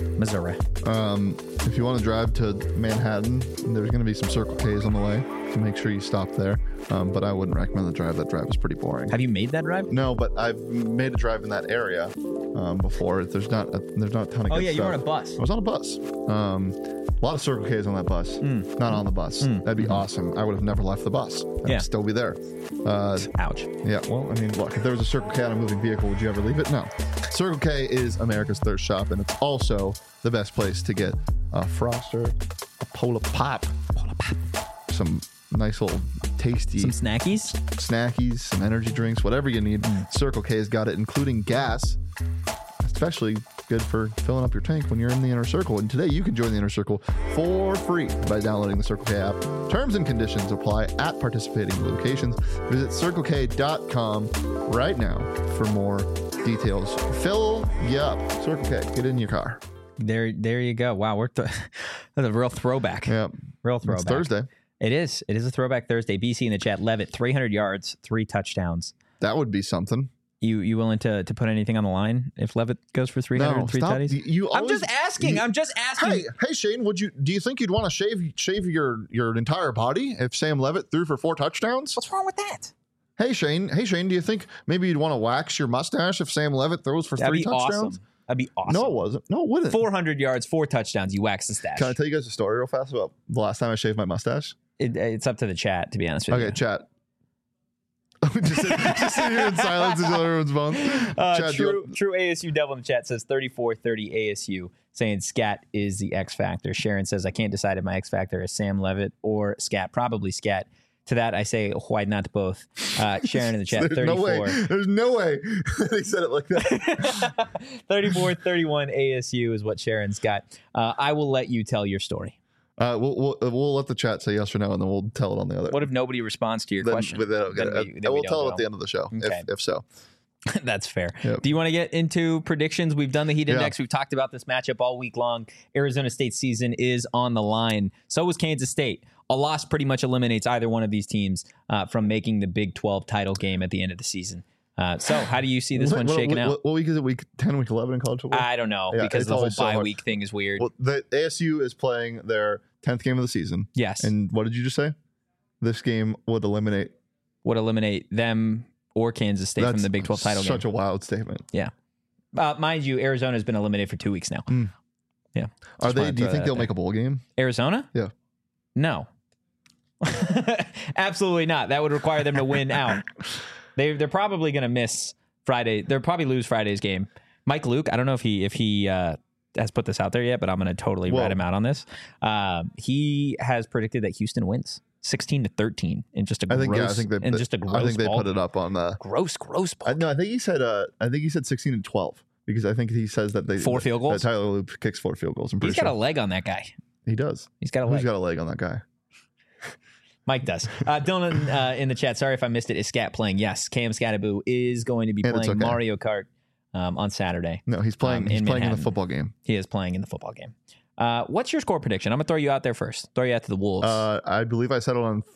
If you want to drive to Manhattan, there's going to be some Circle K's on the way, so make sure you stop there. But I wouldn't recommend the drive. That drive is pretty boring. Have you made that drive? No, but I've made a drive in that area before. There's not a ton of good stuff. Oh yeah, you were on a bus. I was on a bus. A lot of Circle K's on that bus. Not on the bus. That'd be awesome. I would have never left the bus. I'd still be there. Ouch. Yeah, well, I mean, look, if there was a Circle K on a moving vehicle, would you ever leave it? No. Circle K is America's thirst shop, and it's also the best place to get a Froster, a Polar Pop, some nice little tasty... Some snackies, some energy drinks, whatever you need. Circle K's got it, including gas, especially good for filling up your tank when you're in the Inner Circle. And today you can join the Inner Circle for free by downloading the Circle K app. Terms and conditions apply at participating locations. Visit CircleK.com right now for more details. Fill you up. Circle K, get in your car. There you go. Wow, that's a real throwback. Yeah, real throwback. It's Thursday. It is a throwback Thursday. BC in the chat. Levitt, 300 yards, 3 touchdowns. That would be something. You willing to put anything on the line if Levitt goes for 300 3 tutties? I'm just asking. Hey Shane, do you think you'd want to shave your entire body if Sam Levitt threw for 4 touchdowns? What's wrong with that? Hey Shane, do you think maybe you'd want to wax your mustache if Sam Levitt throws for 3 touchdowns? Awesome. That'd be awesome. No, it wasn't. No, it wouldn't. 400 yards, 4 touchdowns. You wax the stash. Can I tell you guys a story real fast about the last time I shaved my mustache? It's up to the chat, to be honest with you. Okay, chat. just sit here in silence until everyone's bones. True ASU Devil in the chat says 34-30 ASU, saying Scat is the X Factor. Sharon says, I can't decide if my X Factor is Sam Levitt or Scat. Probably Scat. To that, I say, why not both? Sharon in the chat, 34. There's no way they said it like that. 34-31 ASU is what Sharon's got. I will let you tell your story. We'll let the chat say yes or no, and then we'll tell it on the other. What if nobody responds to your question? We'll tell it at the end of the show, okay. if so. That's fair. Yep. Do you want to get into predictions? We've done the heat index. We've talked about this matchup all week long. Arizona State's season is on the line. So was Kansas State. A loss pretty much eliminates either one of these teams from making the Big 12 title game at the end of the season. So how do you see this one shaking out? What week is it? Week 10, week 11 in college football? I don't know, Yeah, because it's the whole always so bye hard. week thing is weird. Well, the ASU is playing their 10th game of the season. Yes. And what did you just say? This game would eliminate them or Kansas State from the Big 12 title game. Such a wild statement. Yeah. Mind you, Arizona's been eliminated for 2 weeks now. Yeah. Do you think they'll make a bowl game? Arizona? Yeah. No. Absolutely not. That would require them to win out. They're probably going to miss Friday. They'll probably lose Friday's game. Mike Luke, I don't know if he has put this out there yet, but I'm going to totally rat him out on this. He has predicted that Houston wins 16-13 in just a gross. I think they put it up on the gross. No, I think he said 16-12 because I think he says that they 4 field goals. That Tyler Loop kicks 4 field goals. He's got a leg on that guy. He does. He's got a leg. Who's got a leg on that guy? Mike does. Dylan in the chat, sorry if I missed it. Is Scat playing? Yes, Cam Scattaboo is going to be playing Mario Kart on Saturday. No, he's playing. He's playing in the football game. He is playing in the football game. What's your score prediction? I'm gonna throw you out there first. Throw you out to the Wolves. I believe I settled on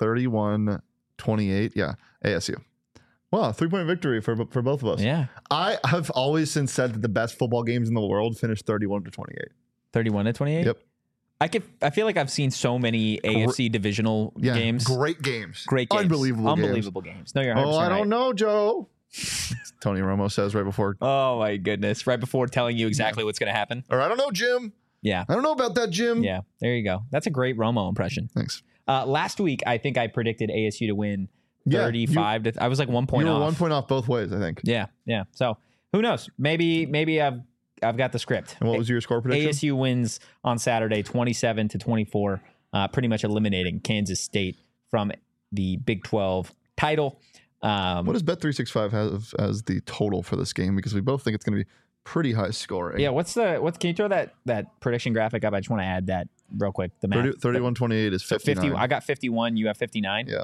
31-28. Yeah, ASU. Wow, 3-point victory for both of us. Yeah. I have always since said that the best football games in the world finish 31-28. 31-28. Yep. I feel like I've seen so many AFC divisional games. Great games. Unbelievable games. No, you're 100% I don't right. know, Joe. Tony Romo says right before. Oh my goodness! Right before telling you exactly what's going to happen. Or I don't know, Jim. Yeah. I don't know about that, Jim. Yeah. There you go. That's a great Romo impression. Thanks. Last week, I think I predicted ASU to win 35. I was like 1 point off. You were 1 point off both ways, I think. Yeah. So who knows? Maybe I've got the script. And what was your score prediction? ASU wins on Saturday, 27-24, pretty much eliminating Kansas State from the Big 12 title. What does Bet365 have as the total for this game? Because we both think it's going to be pretty high scoring. Yeah. Can you throw that prediction graphic up? I just want to add that real quick. The math. 31-28 is 59. 50. I got 51. You have 59. Yeah.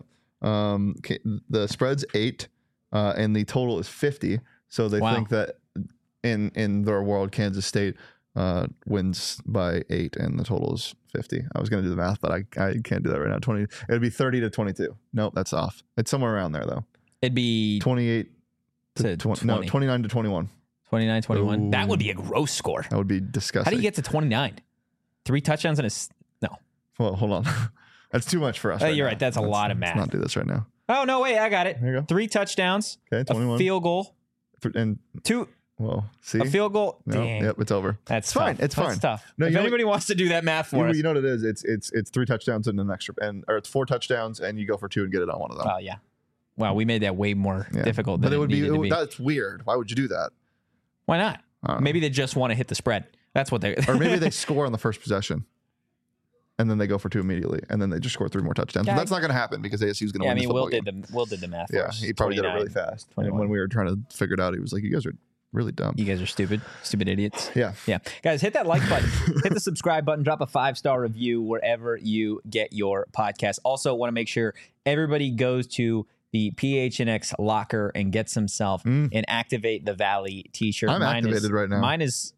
The spread's 8, and the total is 50. So they think that in their world, Kansas State wins by 8, and the total is 50. I was going to do the math, but I can't do that right now. It would be 30-22. Nope, that's off. It's somewhere around there though. It'd be 28 to 20. No, 29-21. 29-21. That would be a gross score. That would be disgusting. How do you get to 29? 3 touchdowns and no. Well, hold on. That's too much for us. You're right. That's a lot of math. Let's not do this right now. Oh no, wait, I got it. There you go. 3 touchdowns. Okay, 21. A field goal. And 2. Well, see, a field goal. No, Dang. Yep, it's over. That's fine. Tough. It's fine. That's tough. No, if anybody wants to do that math for us, you know what it is. It's 3 touchdowns and an extra, or it's 4 touchdowns and you go for 2 and get it on one of them. Oh yeah. Wow, we made that way more difficult than it needed to be. That's weird. Why would you do that? Why not? Maybe they just want to hit the spread. That's what they. Or maybe they score on the first possession, and then they go for 2 immediately, and then they just score 3 more touchdowns. But that's not going to happen because ASU is going to win. Will did the math. Yeah, he probably did it really fast. And when we were trying to figure it out, he was like, "You guys are really dumb. You guys are stupid idiots." Yeah. Guys, hit that like button, hit the subscribe button, drop a 5-star review wherever you get your podcast. Also, want to make sure everybody goes to the PHNX locker and gets himself an Activate the Valley t-shirt. I'm activated right now.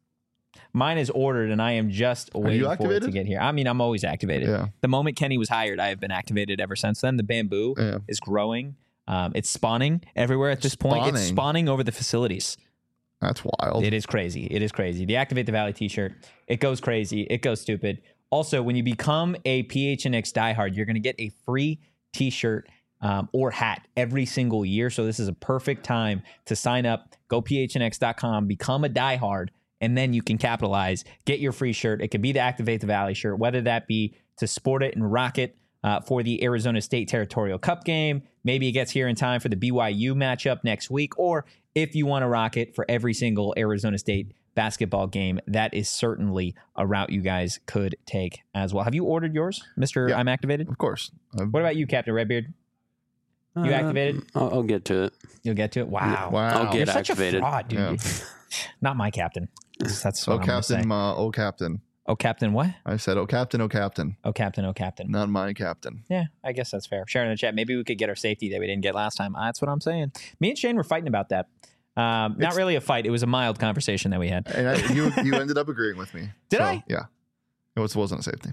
Mine is ordered, and I am just waiting for it to get here. I mean, I'm always activated. Yeah. The moment Kenny was hired, I have been activated ever since then. The bamboo is growing. It's spawning everywhere at this point. It's spawning over the facilities. That's wild. It is crazy. The Activate the Valley t-shirt, it goes crazy. It goes stupid. Also, when you become a PHNX diehard, you're going to get a free t-shirt or hat every single year. So this is a perfect time to sign up. Go phnx.com, become a diehard, and then you can capitalize. Get your free shirt. It could be the Activate the Valley shirt, whether that be to sport it and rock it for the Arizona State Territorial Cup game. Maybe it gets here in time for the BYU matchup next week, or if you want to rock it for every single Arizona State basketball game, that is certainly a route you guys could take as well. Have you ordered yours, Mr. I'm Activated? Of course. What about you, Captain Redbeard? You activated? I'll get to it. You'll get to it? Wow. I'll get You're such activated. a fraud, dude. Yeah. Not my captain. That's what I'm Captain, say. oh, Captain. Oh, Captain what? I said, oh, Captain, oh, Captain. Oh, Captain, oh, Captain. Not my captain. Yeah, I guess that's fair. Sharing in the chat. Maybe we could get our safety that we didn't get last time. That's what I'm saying. Me and Shane were fighting about that. Not really a fight. It was a mild conversation that we had. And you ended up agreeing with me. Did I? Yeah. It wasn't a safety.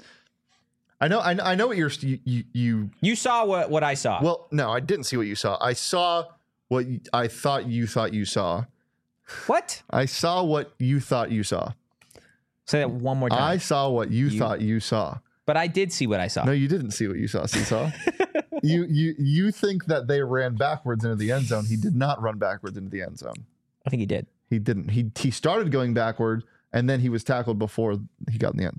I know what you saw what I saw. Well, no, I didn't see what you saw. I saw I thought you saw. What? I saw what you thought you saw. Say that one more time. I saw what you thought you saw. But I did see what I saw. No, you didn't see what you saw, Seesaw. you think that they ran backwards into the end zone. He did not run backwards into the end zone. I think he did. He didn't. He started going backward, and then he was tackled before he got in the end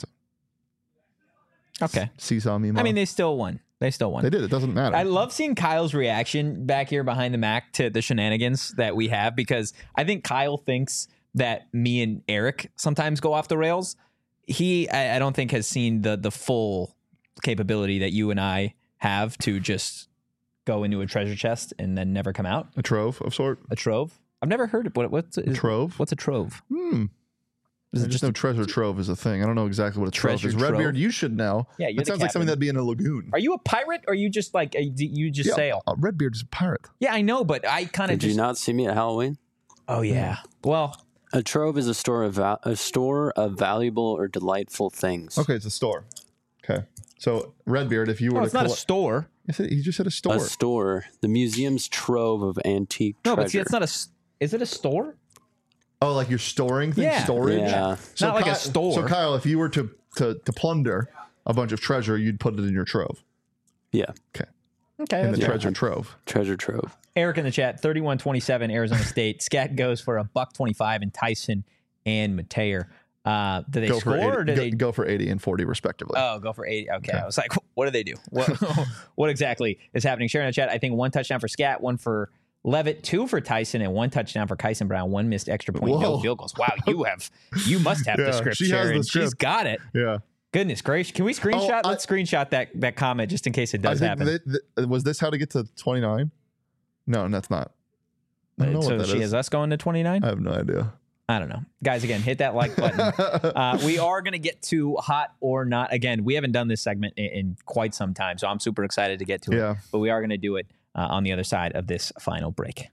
zone. Okay. Seesaw me. I mean, they still won. They did. It doesn't matter. I love seeing Kyle's reaction back here behind the Mac to the shenanigans that we have, because I think Kyle thinks that me and Eric sometimes go off the rails. I don't think has seen the full capability that you and I have to just go into a treasure chest and then never come out. A trove of sort. A trove. I've never heard of what's a trove. What's a trove? Is it just no treasure trove is a thing? I don't know exactly what a trove is. Redbeard, you should know. Yeah, it sounds like something that'd be in a lagoon. Are you a pirate, or are you just like you just sail? Redbeard is a pirate. Yeah, I know, but I kind of Did you not see me at Halloween? Oh yeah. Well, a trove is a store of valuable or delightful things. Okay, it's a store. Okay, so Redbeard, if you were it's not a store. He just said a store. A store. The museum's trove of antique treasure. No, but see, it's not a. Is it a store? Oh, like you're storing things? Yeah. Storage? Yeah. So not like a store. So Kyle, if you were to plunder a bunch of treasure, you'd put it in your trove. Yeah. Okay. Okay. In the treasure trove. Treasure trove. Eric in the chat, 31-27, Arizona State. Scat goes for $125, and Tyson and Mateer. Do they score, or do they go for 80 and 40 respectively? Oh, go for 80. Okay. I was like, what do they do? What exactly is happening? Share in the chat. I think 1 touchdown for Scat, 1 for Levitt, 2 for Tyson, and 1 touchdown for Kyson Brown. 1 missed extra point, no field goals. Wow, you must have the script, she Sharon. has the script. She's got it. Yeah. Goodness gracious. Can we screenshot? Let's screenshot that comment just in case it does happen. Was this how to get to 29? No, that's not. I don't know so what that she is. has us going to 29? I have no idea. I don't know. Guys, again, hit that like button. We are going to get to hot or not. Again, we haven't done this segment in quite some time, so I'm super excited to get to it. But we are going to do it on the other side of this final break.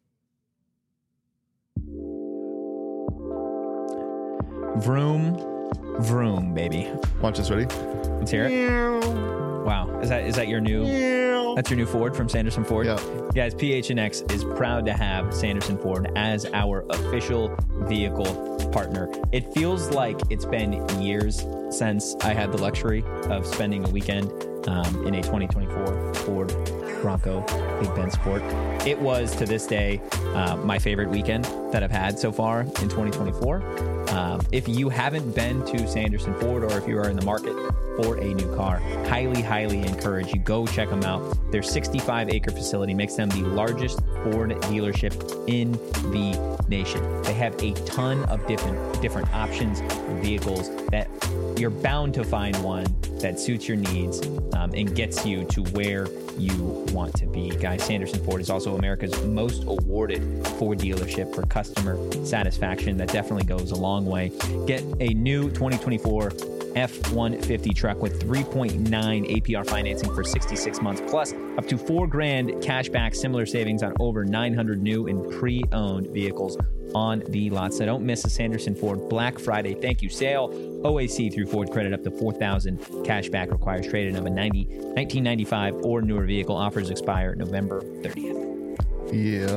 Vroom, vroom, baby. Watch this, ready? Let's hear it. Wow. Is that your new... That's your new Ford from Sanderson Ford? Yeah. Guys, PHNX is proud to have Sanderson Ford as our official vehicle partner. It feels like it's been years since I had the luxury of spending a weekend in a 2024 Ford Bronco Big Ben Sport. It was, to this day, my favorite weekend that I've had so far in 2024. If you haven't been to Sanderson Ford, or if you are in the market for a new car, highly encourage you go check them out. Their 65-acre facility makes them the largest Ford dealership in the nation. They have a ton of different options and vehicles that you're bound to find one that suits your needs and gets you to where you want to be. Guys, Sanderson Ford is also America's most awarded Ford dealership for customer satisfaction. That definitely goes a long way. Get a new 2024 F-150 truck with 3.9 APR financing for 66 months, plus up to $4,000 cash back, similar savings on over 900 new and pre-owned vehicles on the lot. So don't miss a Sanderson Ford Black Friday thank you sale. OAC through Ford credit up to $4,000 cash back, requires trade-in of a 1995 or newer vehicle. Offers expire November 30th. Yeah.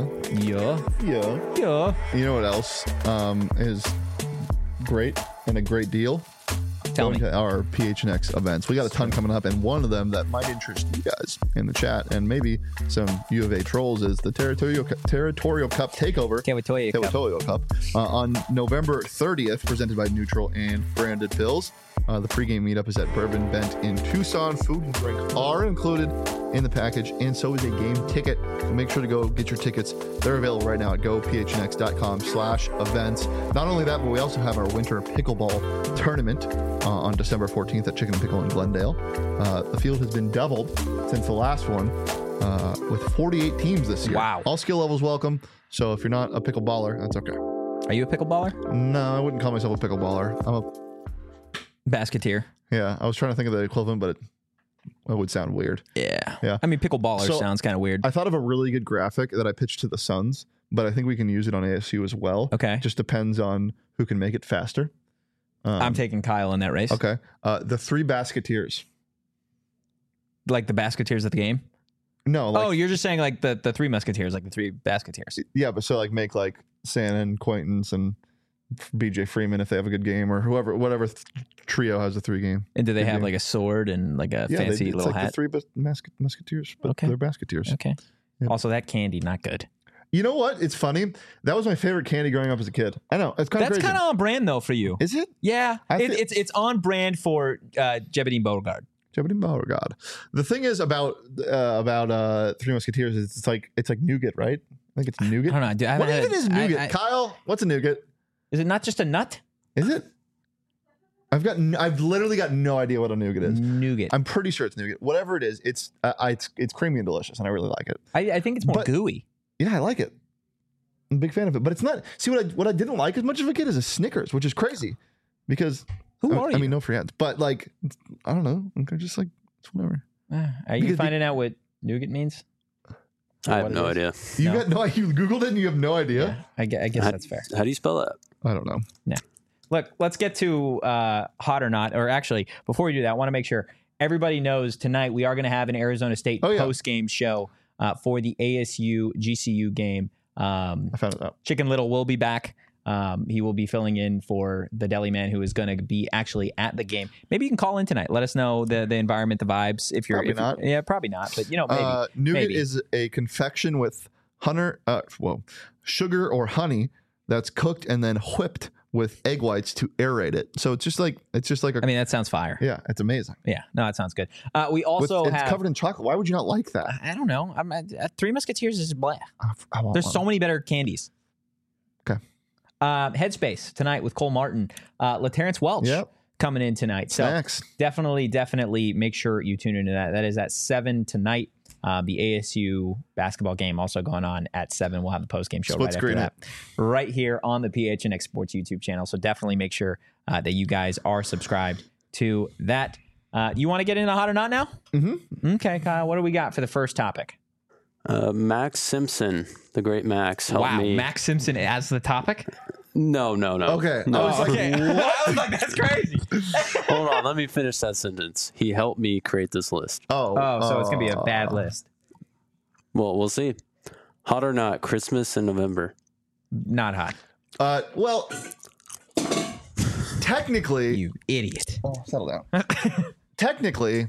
You know what else is great and a great deal? Tell me. Our PHNX events. We got a ton coming up, and one of them that might interest you guys in the chat, and maybe some U of A trolls, is the Territorial Cup Takeover. Territorial Cup. On November 30th, presented by Neutral and Branded Pills. The pregame meetup is at Bourbon Bent in Tucson. Food and drink are included in the package, and so is a game ticket. So make sure to go get your tickets. They're available right now at gophnx.com/events. Not only that, but we also have our winter pickleball tournament on December 14th at Chicken and Pickle in Glendale. The field has been doubled since the last one, with 48 teams this year. Wow. All skill levels welcome. So if you're not a pickleballer, that's okay. Are you a pickleballer? No, I wouldn't call myself a pickleballer. I'm a Basketeer. Yeah, I was trying to think of the equivalent, but it would sound weird. Yeah. I mean, pickleballer sounds kind of weird. I thought of a really good graphic that I pitched to the Suns, but I think we can use it on ASU as well. Okay. Just depends on who can make it faster. I'm taking Kyle in that race. Okay. The 3 basketeers. Like the basketeers at the game? No, like, Oh, you're just saying like the Three Musketeers, like the Three Basketeers. yeah, but so like make like Santa and Quaintance and BJ Freeman if they have a good game, or whatever trio has a 3 game. And do they Good have game. like a sword and like a Yeah, fancy it's little like hat? the 3 Musketeers, but Okay. they're Basketeers. Okay. Yeah. Also, that candy, not good. You know what? It's funny. That was my favorite candy growing up as a kid. I know it's kind of That's crazy. kind of on brand though for you. Is it? Yeah, I feel- it's on brand for Jebediah Beauregard. Oh God. The thing is about Three Musketeers is it's like nougat, right? I think it's nougat. I don't know. Dude, I haven't What had even is nougat? I- Kyle, what's a nougat? is it not just a nut? Is it? I've literally got no idea what a nougat is. Nougat. I'm pretty sure it's nougat. Whatever it is, it's creamy and delicious, and I really like it. I think it's more But- gooey. Yeah, I like it. I'm a big fan of it, but it's not. See what I didn't like as much as a kid is a Snickers, which is crazy, because Who I are you? mean, no free ads, but like I don't know. I'm just like it's whatever. Are you because- finding out what nougat means? I have what it no is? idea. You No. got no. You Googled it and you have no idea. I guess How- that's fair. How do you spell that? I don't know. Look, let's get to hot or not. Or actually, before we do that, I want to make sure everybody knows tonight we are going to have an Arizona State Oh, yeah. post-game show for the ASU GCU game. I found it out. Chicken Little will be back. He will be filling in for the deli man who is going to be actually at the game. Maybe you can call in tonight. Let us know the environment, the vibes. If you're Probably if, not. Yeah, probably not. But maybe. Nougat Maybe. is a confection with sugar or honey that's cooked and then whipped with egg whites to aerate it. So it's just like a. I mean, that sounds fire. yeah, it's amazing. Yeah, no, that sounds good. We also it's have. covered in chocolate. Why would you not like that? I don't know. Three Musketeers is blah. I want There's one. so many better candies. Okay. Headspace tonight with Cole Martin, LaTerrence Welch Yep. coming in tonight. So Snacks. definitely make sure you tune into that. That is at 7 tonight. The ASU basketball game also going on at 7. We'll have the post game show Split right screen after that, right here on the PHNX Sports YouTube channel. So definitely make sure that you guys are subscribed to that. You want to get into hot or not now? Mm-hmm. Okay, Kyle. What do we got for the first topic? Max Simpson, the great Max, helped Wow, me. Max Simpson as the topic. No. Okay. No. I was like, Okay, I was like, that's crazy. Hold on, let me finish that sentence. He helped me create this list. Oh, so it's gonna be a bad list. Well, we'll see. Hot or not, Christmas in November. Not hot. Well, technically, You idiot. settle down. Technically,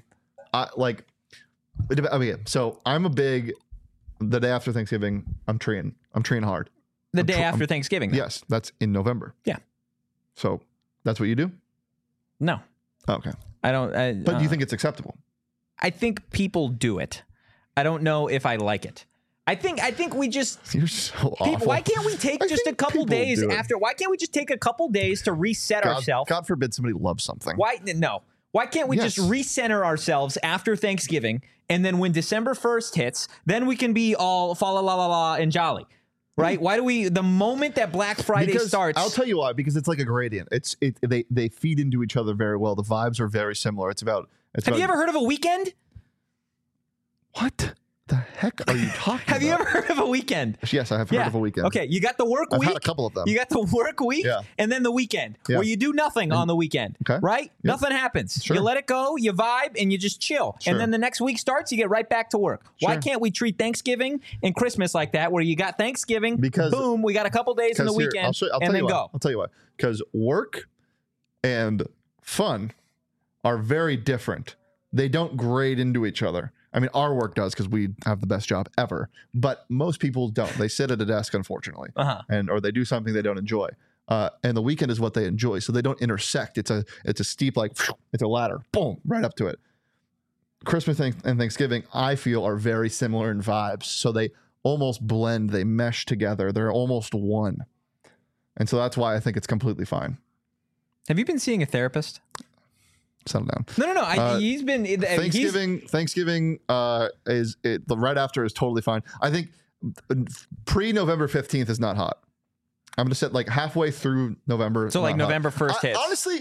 so I'm a big. The day after Thanksgiving, I'm treeing hard. The day after Thanksgiving. though. Yes, that's in November. Yeah. So that's what you do. No, Okay, I don't. but do you think it's acceptable? I think people do it. I don't know if I like it. I think we just. You're so People, awful. why can't we take I just a think couple people days do it. after? Why can't we just take a couple days to reset ourselves? God forbid somebody loves something. Why no? Why can't we Yes. just recenter ourselves after Thanksgiving, and then when December 1st hits, then we can be all fa la la la la and jolly, right? Why do we? The moment that Black Friday Because starts, I'll tell you why. Because it's like a gradient. They feed into each other very well. The vibes are very similar. have you ever heard of a weekend? What the heck are you talking about? Have you ever heard of a weekend? Yes, I have heard of a weekend. Okay, you got the work I've week. had a couple of them. You got the work week, Yeah. and then the weekend, Yeah. where you do nothing on the weekend, Okay. right? Yep. Nothing happens. Sure. You let it go, you vibe, and you just chill. Sure. And then the next week starts, you get right back to work. Why Sure. can't we treat Thanksgiving and Christmas like that, where you got Thanksgiving, Because- boom, we got a couple days in the 'Cause here, weekend, I'll and tell then you why. go. I'll tell you why. Because work and fun are very different. They don't grade into each other. I mean, our work does because we have the best job ever, but most people don't. They sit at a desk, unfortunately, or they do something they don't enjoy. And the weekend is what they enjoy, so they don't intersect. It's a steep, like it's a ladder, boom, right up to it. Christmas and Thanksgiving, I feel, are very similar in vibes, so they almost blend. They mesh together. They're almost one, and so that's why I think it's completely fine. Have you been seeing a therapist? Settle down. No. He's been Thanksgiving is the right after is totally fine. I think pre-November 15th is not hot. I'm going to set like halfway through November. So like not hot. November 1st hits. Honestly,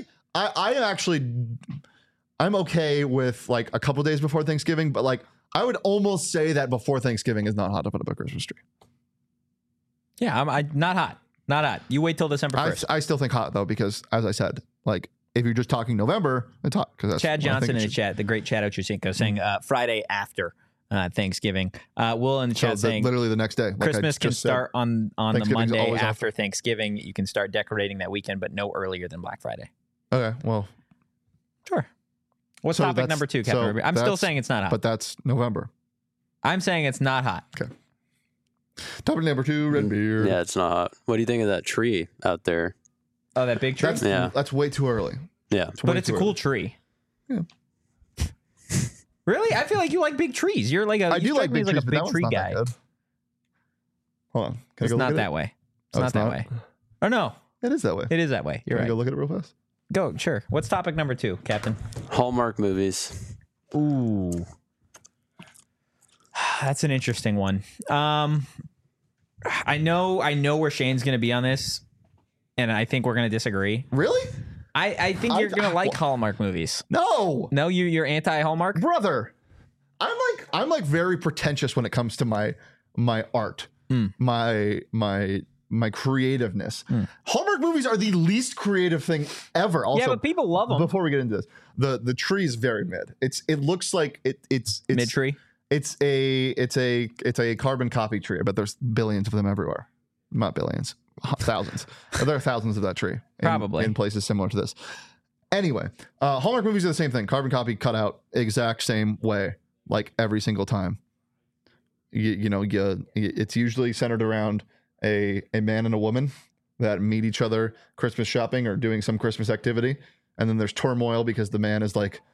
I'm okay with like a couple days before Thanksgiving, but like I would almost say that before Thanksgiving is not hot to put up a Christmas tree. Yeah, I'm not hot. Not hot. You wait till December 1st. I still think hot though, because as I said, like if you're just talking November, it's hot. Because Chad Johnson in the chat, the great Chad Ochocinco, saying Friday after Thanksgiving. Will in the chat saying literally the next day. Like Christmas can start on the Thanksgiving's Monday always after Thanksgiving. You can start decorating that weekend, but no earlier than Black Friday. Okay, well, Sure. What's So topic that's- number 2, so Captain? I'm still that's- saying it's not hot. but that's November. I'm saying it's not hot. Topic number 2, red beer. Yeah, it's not hot. What do you think of that tree out there? Oh, that big tree? That's way too early. Yeah. But it's a cool tree. Yeah. Really? I feel like you like big trees. You're like I you do strike like me big as trees, a but big that one's tree not guy. that good. Hold on. Can I It's go not look that at way. It's Oh, not it's that not? way. Or no, it? It is that way. it is that way. You're Can I right. go look at it real fast? Go, sure. What's topic number 2, Captain? Hallmark movies. Ooh. That's an interesting one. I know where Shane's going to be on this, and I think we're going to disagree. Really? I think you're going to like Hallmark movies. No, No, you're anti-Hallmark? brother. I'm like very pretentious when it comes to my art, my creativeness. Hallmark movies are the least creative thing ever. Also, Yeah, but people love them. before we get into this, the tree is very mid. It looks like it's Mid-tree? It's a carbon copy tree. I bet there's billions of them everywhere. Not billions, thousands. There are thousands of that tree. Probably. in places similar to this. Anyway, Hallmark movies are the same thing. Carbon copy, cut out, exact same way, like every single time. It's usually centered around a man and a woman that meet each other Christmas shopping or doing some Christmas activity, and then there's turmoil because the man is like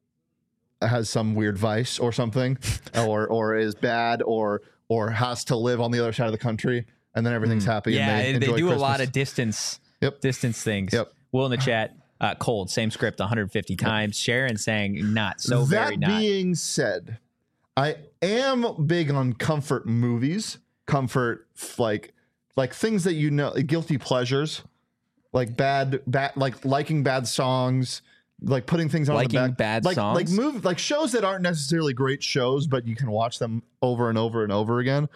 has some weird vice or something, or is bad or has to live on the other side of the country, and then everything's happy. Yeah, and they they enjoy do Christmas. a lot of distance things. Yep. Will in the chat, cold, same script 150 times. Sharon saying not, so that very not. being said, I am big on comfort movies. Comfort, like things that guilty pleasures, like bad, like liking bad songs, like putting things on Liking the back, bad like songs? like shows that aren't necessarily great shows, but you can watch them over and over and over again.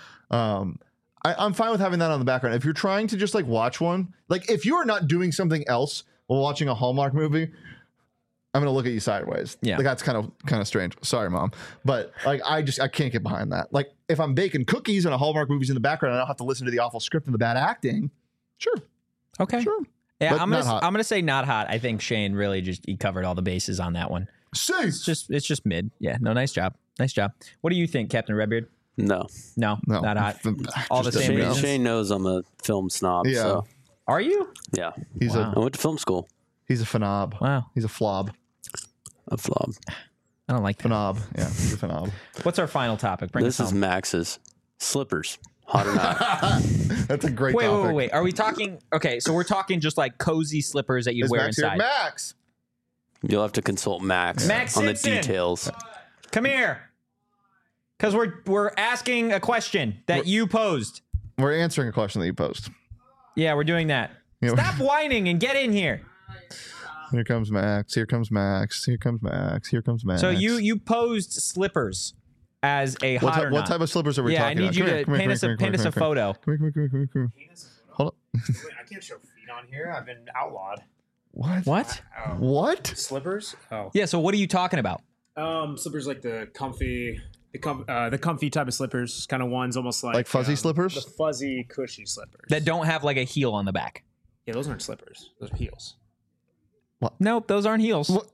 I'm fine with having that on the background. If you're trying to just like watch one, like if you are not doing something else while watching a Hallmark movie, I'm gonna look at you sideways. Yeah. Like that's kind of strange. Sorry, Mom. But like I can't get behind that. Like if I'm baking cookies and a Hallmark movie's in the background and I don't have to listen to the awful script and the bad acting, sure. Okay. Sure. Yeah, But I'm not hot. gonna say not hot. I think Shane really he covered all the bases on that one. Safe. It's just mid. Yeah, no, nice job. What do you think, Captain Redbeard? No. No, not hot. All the Just same Shane, reasons. Shane knows I'm a film snob. Yeah. So Are you? yeah. He's Wow. I went to film school. he's a phenob. Wow. He's a flob. A flop. I don't like that. Phenob. Yeah, he's a phenob. What's our final topic? Bring This us is home. Max's slippers. Hot or not? That's a great Wait, topic. wait. Are we talking? Okay, so we're talking just like cozy slippers that you Is wear Max here? inside. Max. You'll have to consult Max, Max on the Simpson. details. Come here, because we're asking a question that you posed. We're answering a question that you posed. Yeah, we're doing that. Yeah. Stop whining and get in here. Here comes Max. Here comes Max. Here comes Max. Here comes Max. So you posed slippers as a What, hot ty- or what not. type of slippers are we Yeah, I talking need you about? to paint us a photo. Come here. Hold up. Wait, I can't show feet on here. I've been outlawed. What? What? Oh. What? Slippers? Oh. Yeah. So what are you talking about? Slippers like the comfy type of slippers, kind of ones almost like Fuzzy slippers? The fuzzy, cushy slippers. That don't have like a heel on the back. Yeah, those aren't slippers. Those are heels. Nope, those aren't heels. What?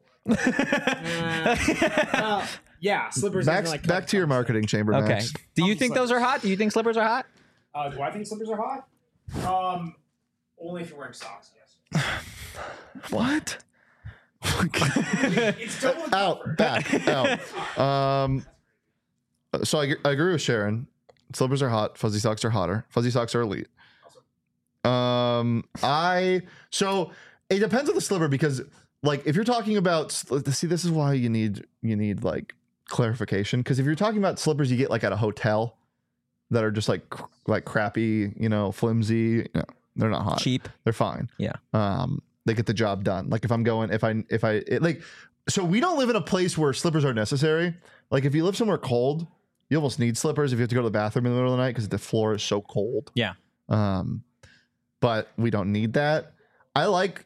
Yeah, slippers. Max, are like back to your marketing chamber, Okay. Max. Do you Comfy think those are hot? Do you think slippers are hot? Do I think slippers are hot? Only if you're wearing socks. Yes. What? It's double Out. Back. Out. So I agree with Sharon. Slippers are hot. Fuzzy socks are hotter. Fuzzy socks are elite. So it depends on the slipper because like if you're talking about see this is why you need like clarification because if you're talking about slippers you get like at a hotel that are just like crappy, flimsy, they're not hot. Cheap. They're fine. Yeah. They get the job done. Like if I'm going so we don't live in a place where slippers are necessary. Like if you live somewhere cold, you almost need slippers if you have to go to the bathroom in the middle of the night because the floor is so cold. Yeah. But we don't need that. I like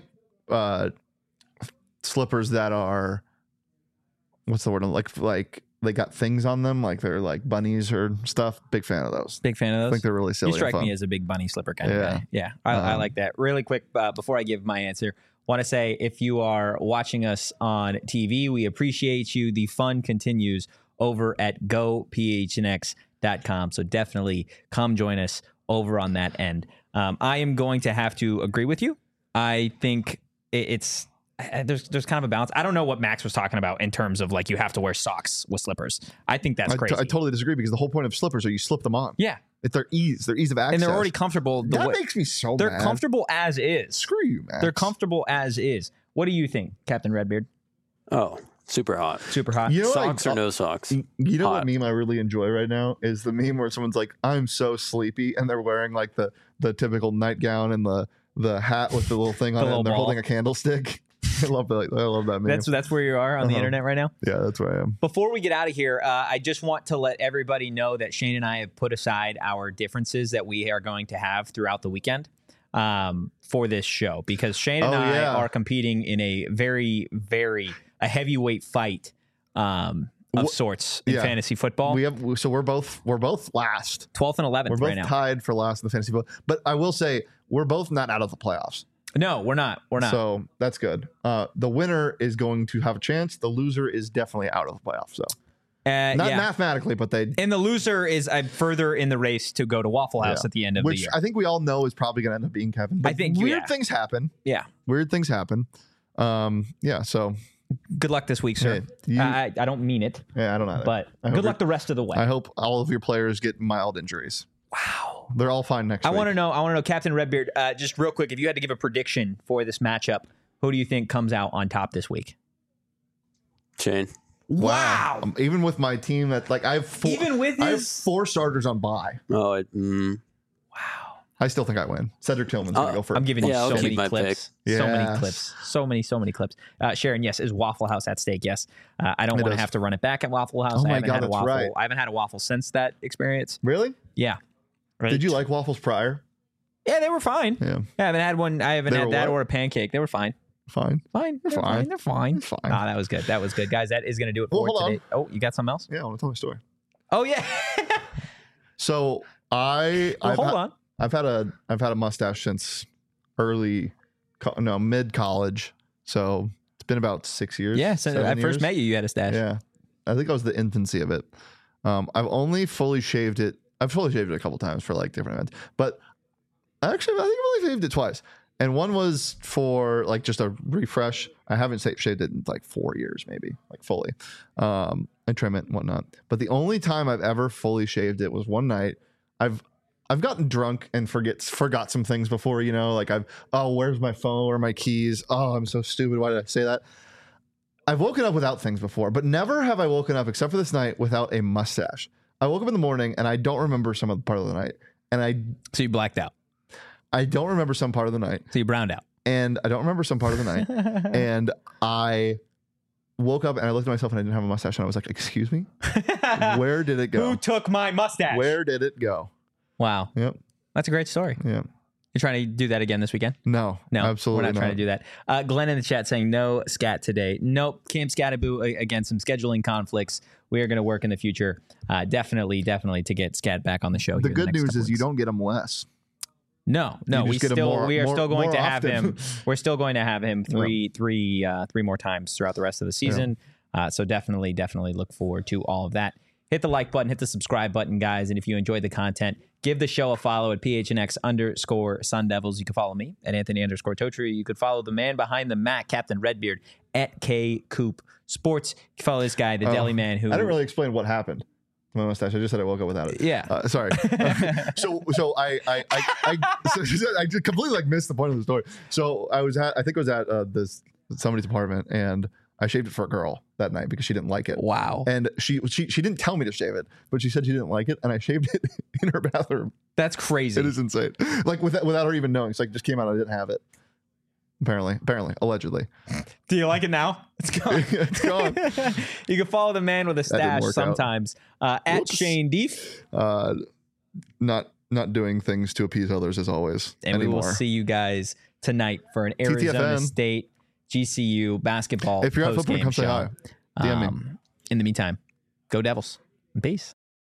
slippers that are what's the word? Like they got things on them, like they're like bunnies or stuff. Big fan of those. Big fan of I those. think they're really silly. You strike and fun. me as a big bunny slipper kind of Yeah. guy. Yeah, I like that. Really quick, before I give my answer, want to say if you are watching us on TV, we appreciate you. The fun continues over at gophnx.com. So definitely come join us over on that end. I am going to have to agree with you. I think it's there's kind of a balance. I don't know what Max was talking about in terms of like you have to wear socks with slippers. I think that's crazy. I totally disagree because the whole point of slippers are you slip them on. Yeah, It's their ease of access. and they're already comfortable. That makes me so they're mad. comfortable as is. Screw you, Max. They're comfortable as is. What do you think, Captain Redbeard? Oh, super hot. Super hot. You know, Socks or no socks? You know what Hot. meme I really enjoy right now is the meme where someone's like, "I'm so sleepy," and they're wearing like the typical nightgown and the hat with the little thing on it, little and they're ball. holding a candlestick. I love that. I love that meme. That's where you are on the Uh-huh. internet right now. Yeah, that's where I am. Before we get out of here, I just want to let everybody know that Shane and I have put aside our differences that we are going to have throughout the weekend for this show because Shane and I are competing in a very, very a heavyweight fight of sorts in fantasy football. We're both last. 12th and 11th We're both right now. tied for last in the fantasy football. But I will say we're both not out of the playoffs. No, we're not. We're not. So that's good. The winner is going to have a chance. The loser is definitely out of the playoffs. So not mathematically, but they. And the loser is further in the race to go to Waffle House at the end of the which year. I think we all know is probably going to end up being Kevin. But I think weird things happen. Yeah. Weird things happen. So Good luck this week, sir. Hey, I don't mean it, yeah, I don't know. but good luck the rest of the way. I hope all of your players get mild injuries. Wow. They're all fine next I week. want to know, Captain Redbeard, just real quick, if you had to give a prediction for this matchup, who do you think comes out on top this week? Shane. Wow. Even with my team, that like I have four, Even with I have his- 4 starters on bye. Oh, Wow. I still think I win. Cedric Tillman's gonna go first. I'm giving you Yeah, I'll so keep many my clips. pick. So many Yes. clips. So many clips. Sharon, yes, is Waffle House at stake? Yes. I don't It want to is. have to run it back at Waffle House. Oh I my haven't God, had a that's waffle. right. I haven't had a waffle since that experience. Really? Yeah. Right. Did you like waffles prior? Yeah, they were fine. Yeah, I haven't had one. I haven't They had were that what? or a pancake. They were fine. fine. They're fine. fine. They're fine. It's fine. Ah, that was good. That was good, guys. That is going to do it for Well, hold today. Oh, you got something else? Yeah, I want to tell my story. Oh yeah. So Well, hold on. I've had a mustache since mid college. So it's been about 6 years. Yeah. So 7 I first years. met you. You had a stash. Yeah, I think I was the infancy of it. I've only fully shaved it. I've fully shaved it a couple times for like different events, but I think I've only shaved it twice. And one was for like just a refresh. I haven't shaved it in like 4 years, maybe like fully, and trim it and whatnot. But the only time I've ever fully shaved it was one night. I've gotten drunk and forgot some things before, like where's my phone or my keys? Oh, I'm so stupid. Why did I say that? I've woken up without things before, but never have I woken up except for this night without a mustache. I woke up in the morning and I don't remember some of the part of the night. And So you blacked out. I don't remember some part of the night. So you browned out. And I don't remember some part of the night. And I woke up and I looked at myself and I didn't have a mustache. And I was like, excuse me? Where did it go? Who took my mustache? Where did it go? Wow. Yep. That's a great story. Yeah. You're trying to do that again this weekend? No, absolutely we're not trying to do that. Glenn in the chat saying no scat today. Nope. Cam Scataboo, again, some scheduling conflicts. We are going to work in the future. Definitely to get Scat back on the show. The here in good next news couple is you weeks. don't get them less. No, You we just get 'em we are still going more to have often. him. We're still going to have him three more times throughout the rest of the season. So definitely look forward to all of that. Hit the like button, hit the subscribe button, guys. And if you enjoyed the content, give the show a follow at PHNX_Sun Devils. You can follow me at Anthony_Totri. You could follow the man behind the mat, Captain Redbeard, at K Coop Sports. You can follow this guy, the Deli Man, who I didn't really explain what happened to my mustache. I just said I woke up without it. Yeah. Sorry. So I just completely missed the point of the story. So I think I was at somebody's apartment and I shaved it for a girl that night because she didn't like it. Wow. And she didn't tell me to shave it, but she said she didn't like it, and I shaved it in her bathroom. That's crazy. It is insane. Without her even knowing. It's it just came out. I didn't have it. Apparently, allegedly. Do you like it now? It's gone. It's gone. You can follow the man with a didn't stash work out. sometimes at Whoops. Shane Deef. Not doing things to appease others as always. And anymore. we will see you guys tonight for an Arizona TTFN. State GCU basketball. If you're at post-game football, come say show. hi. DM me. In the meantime, Go Devils. Peace.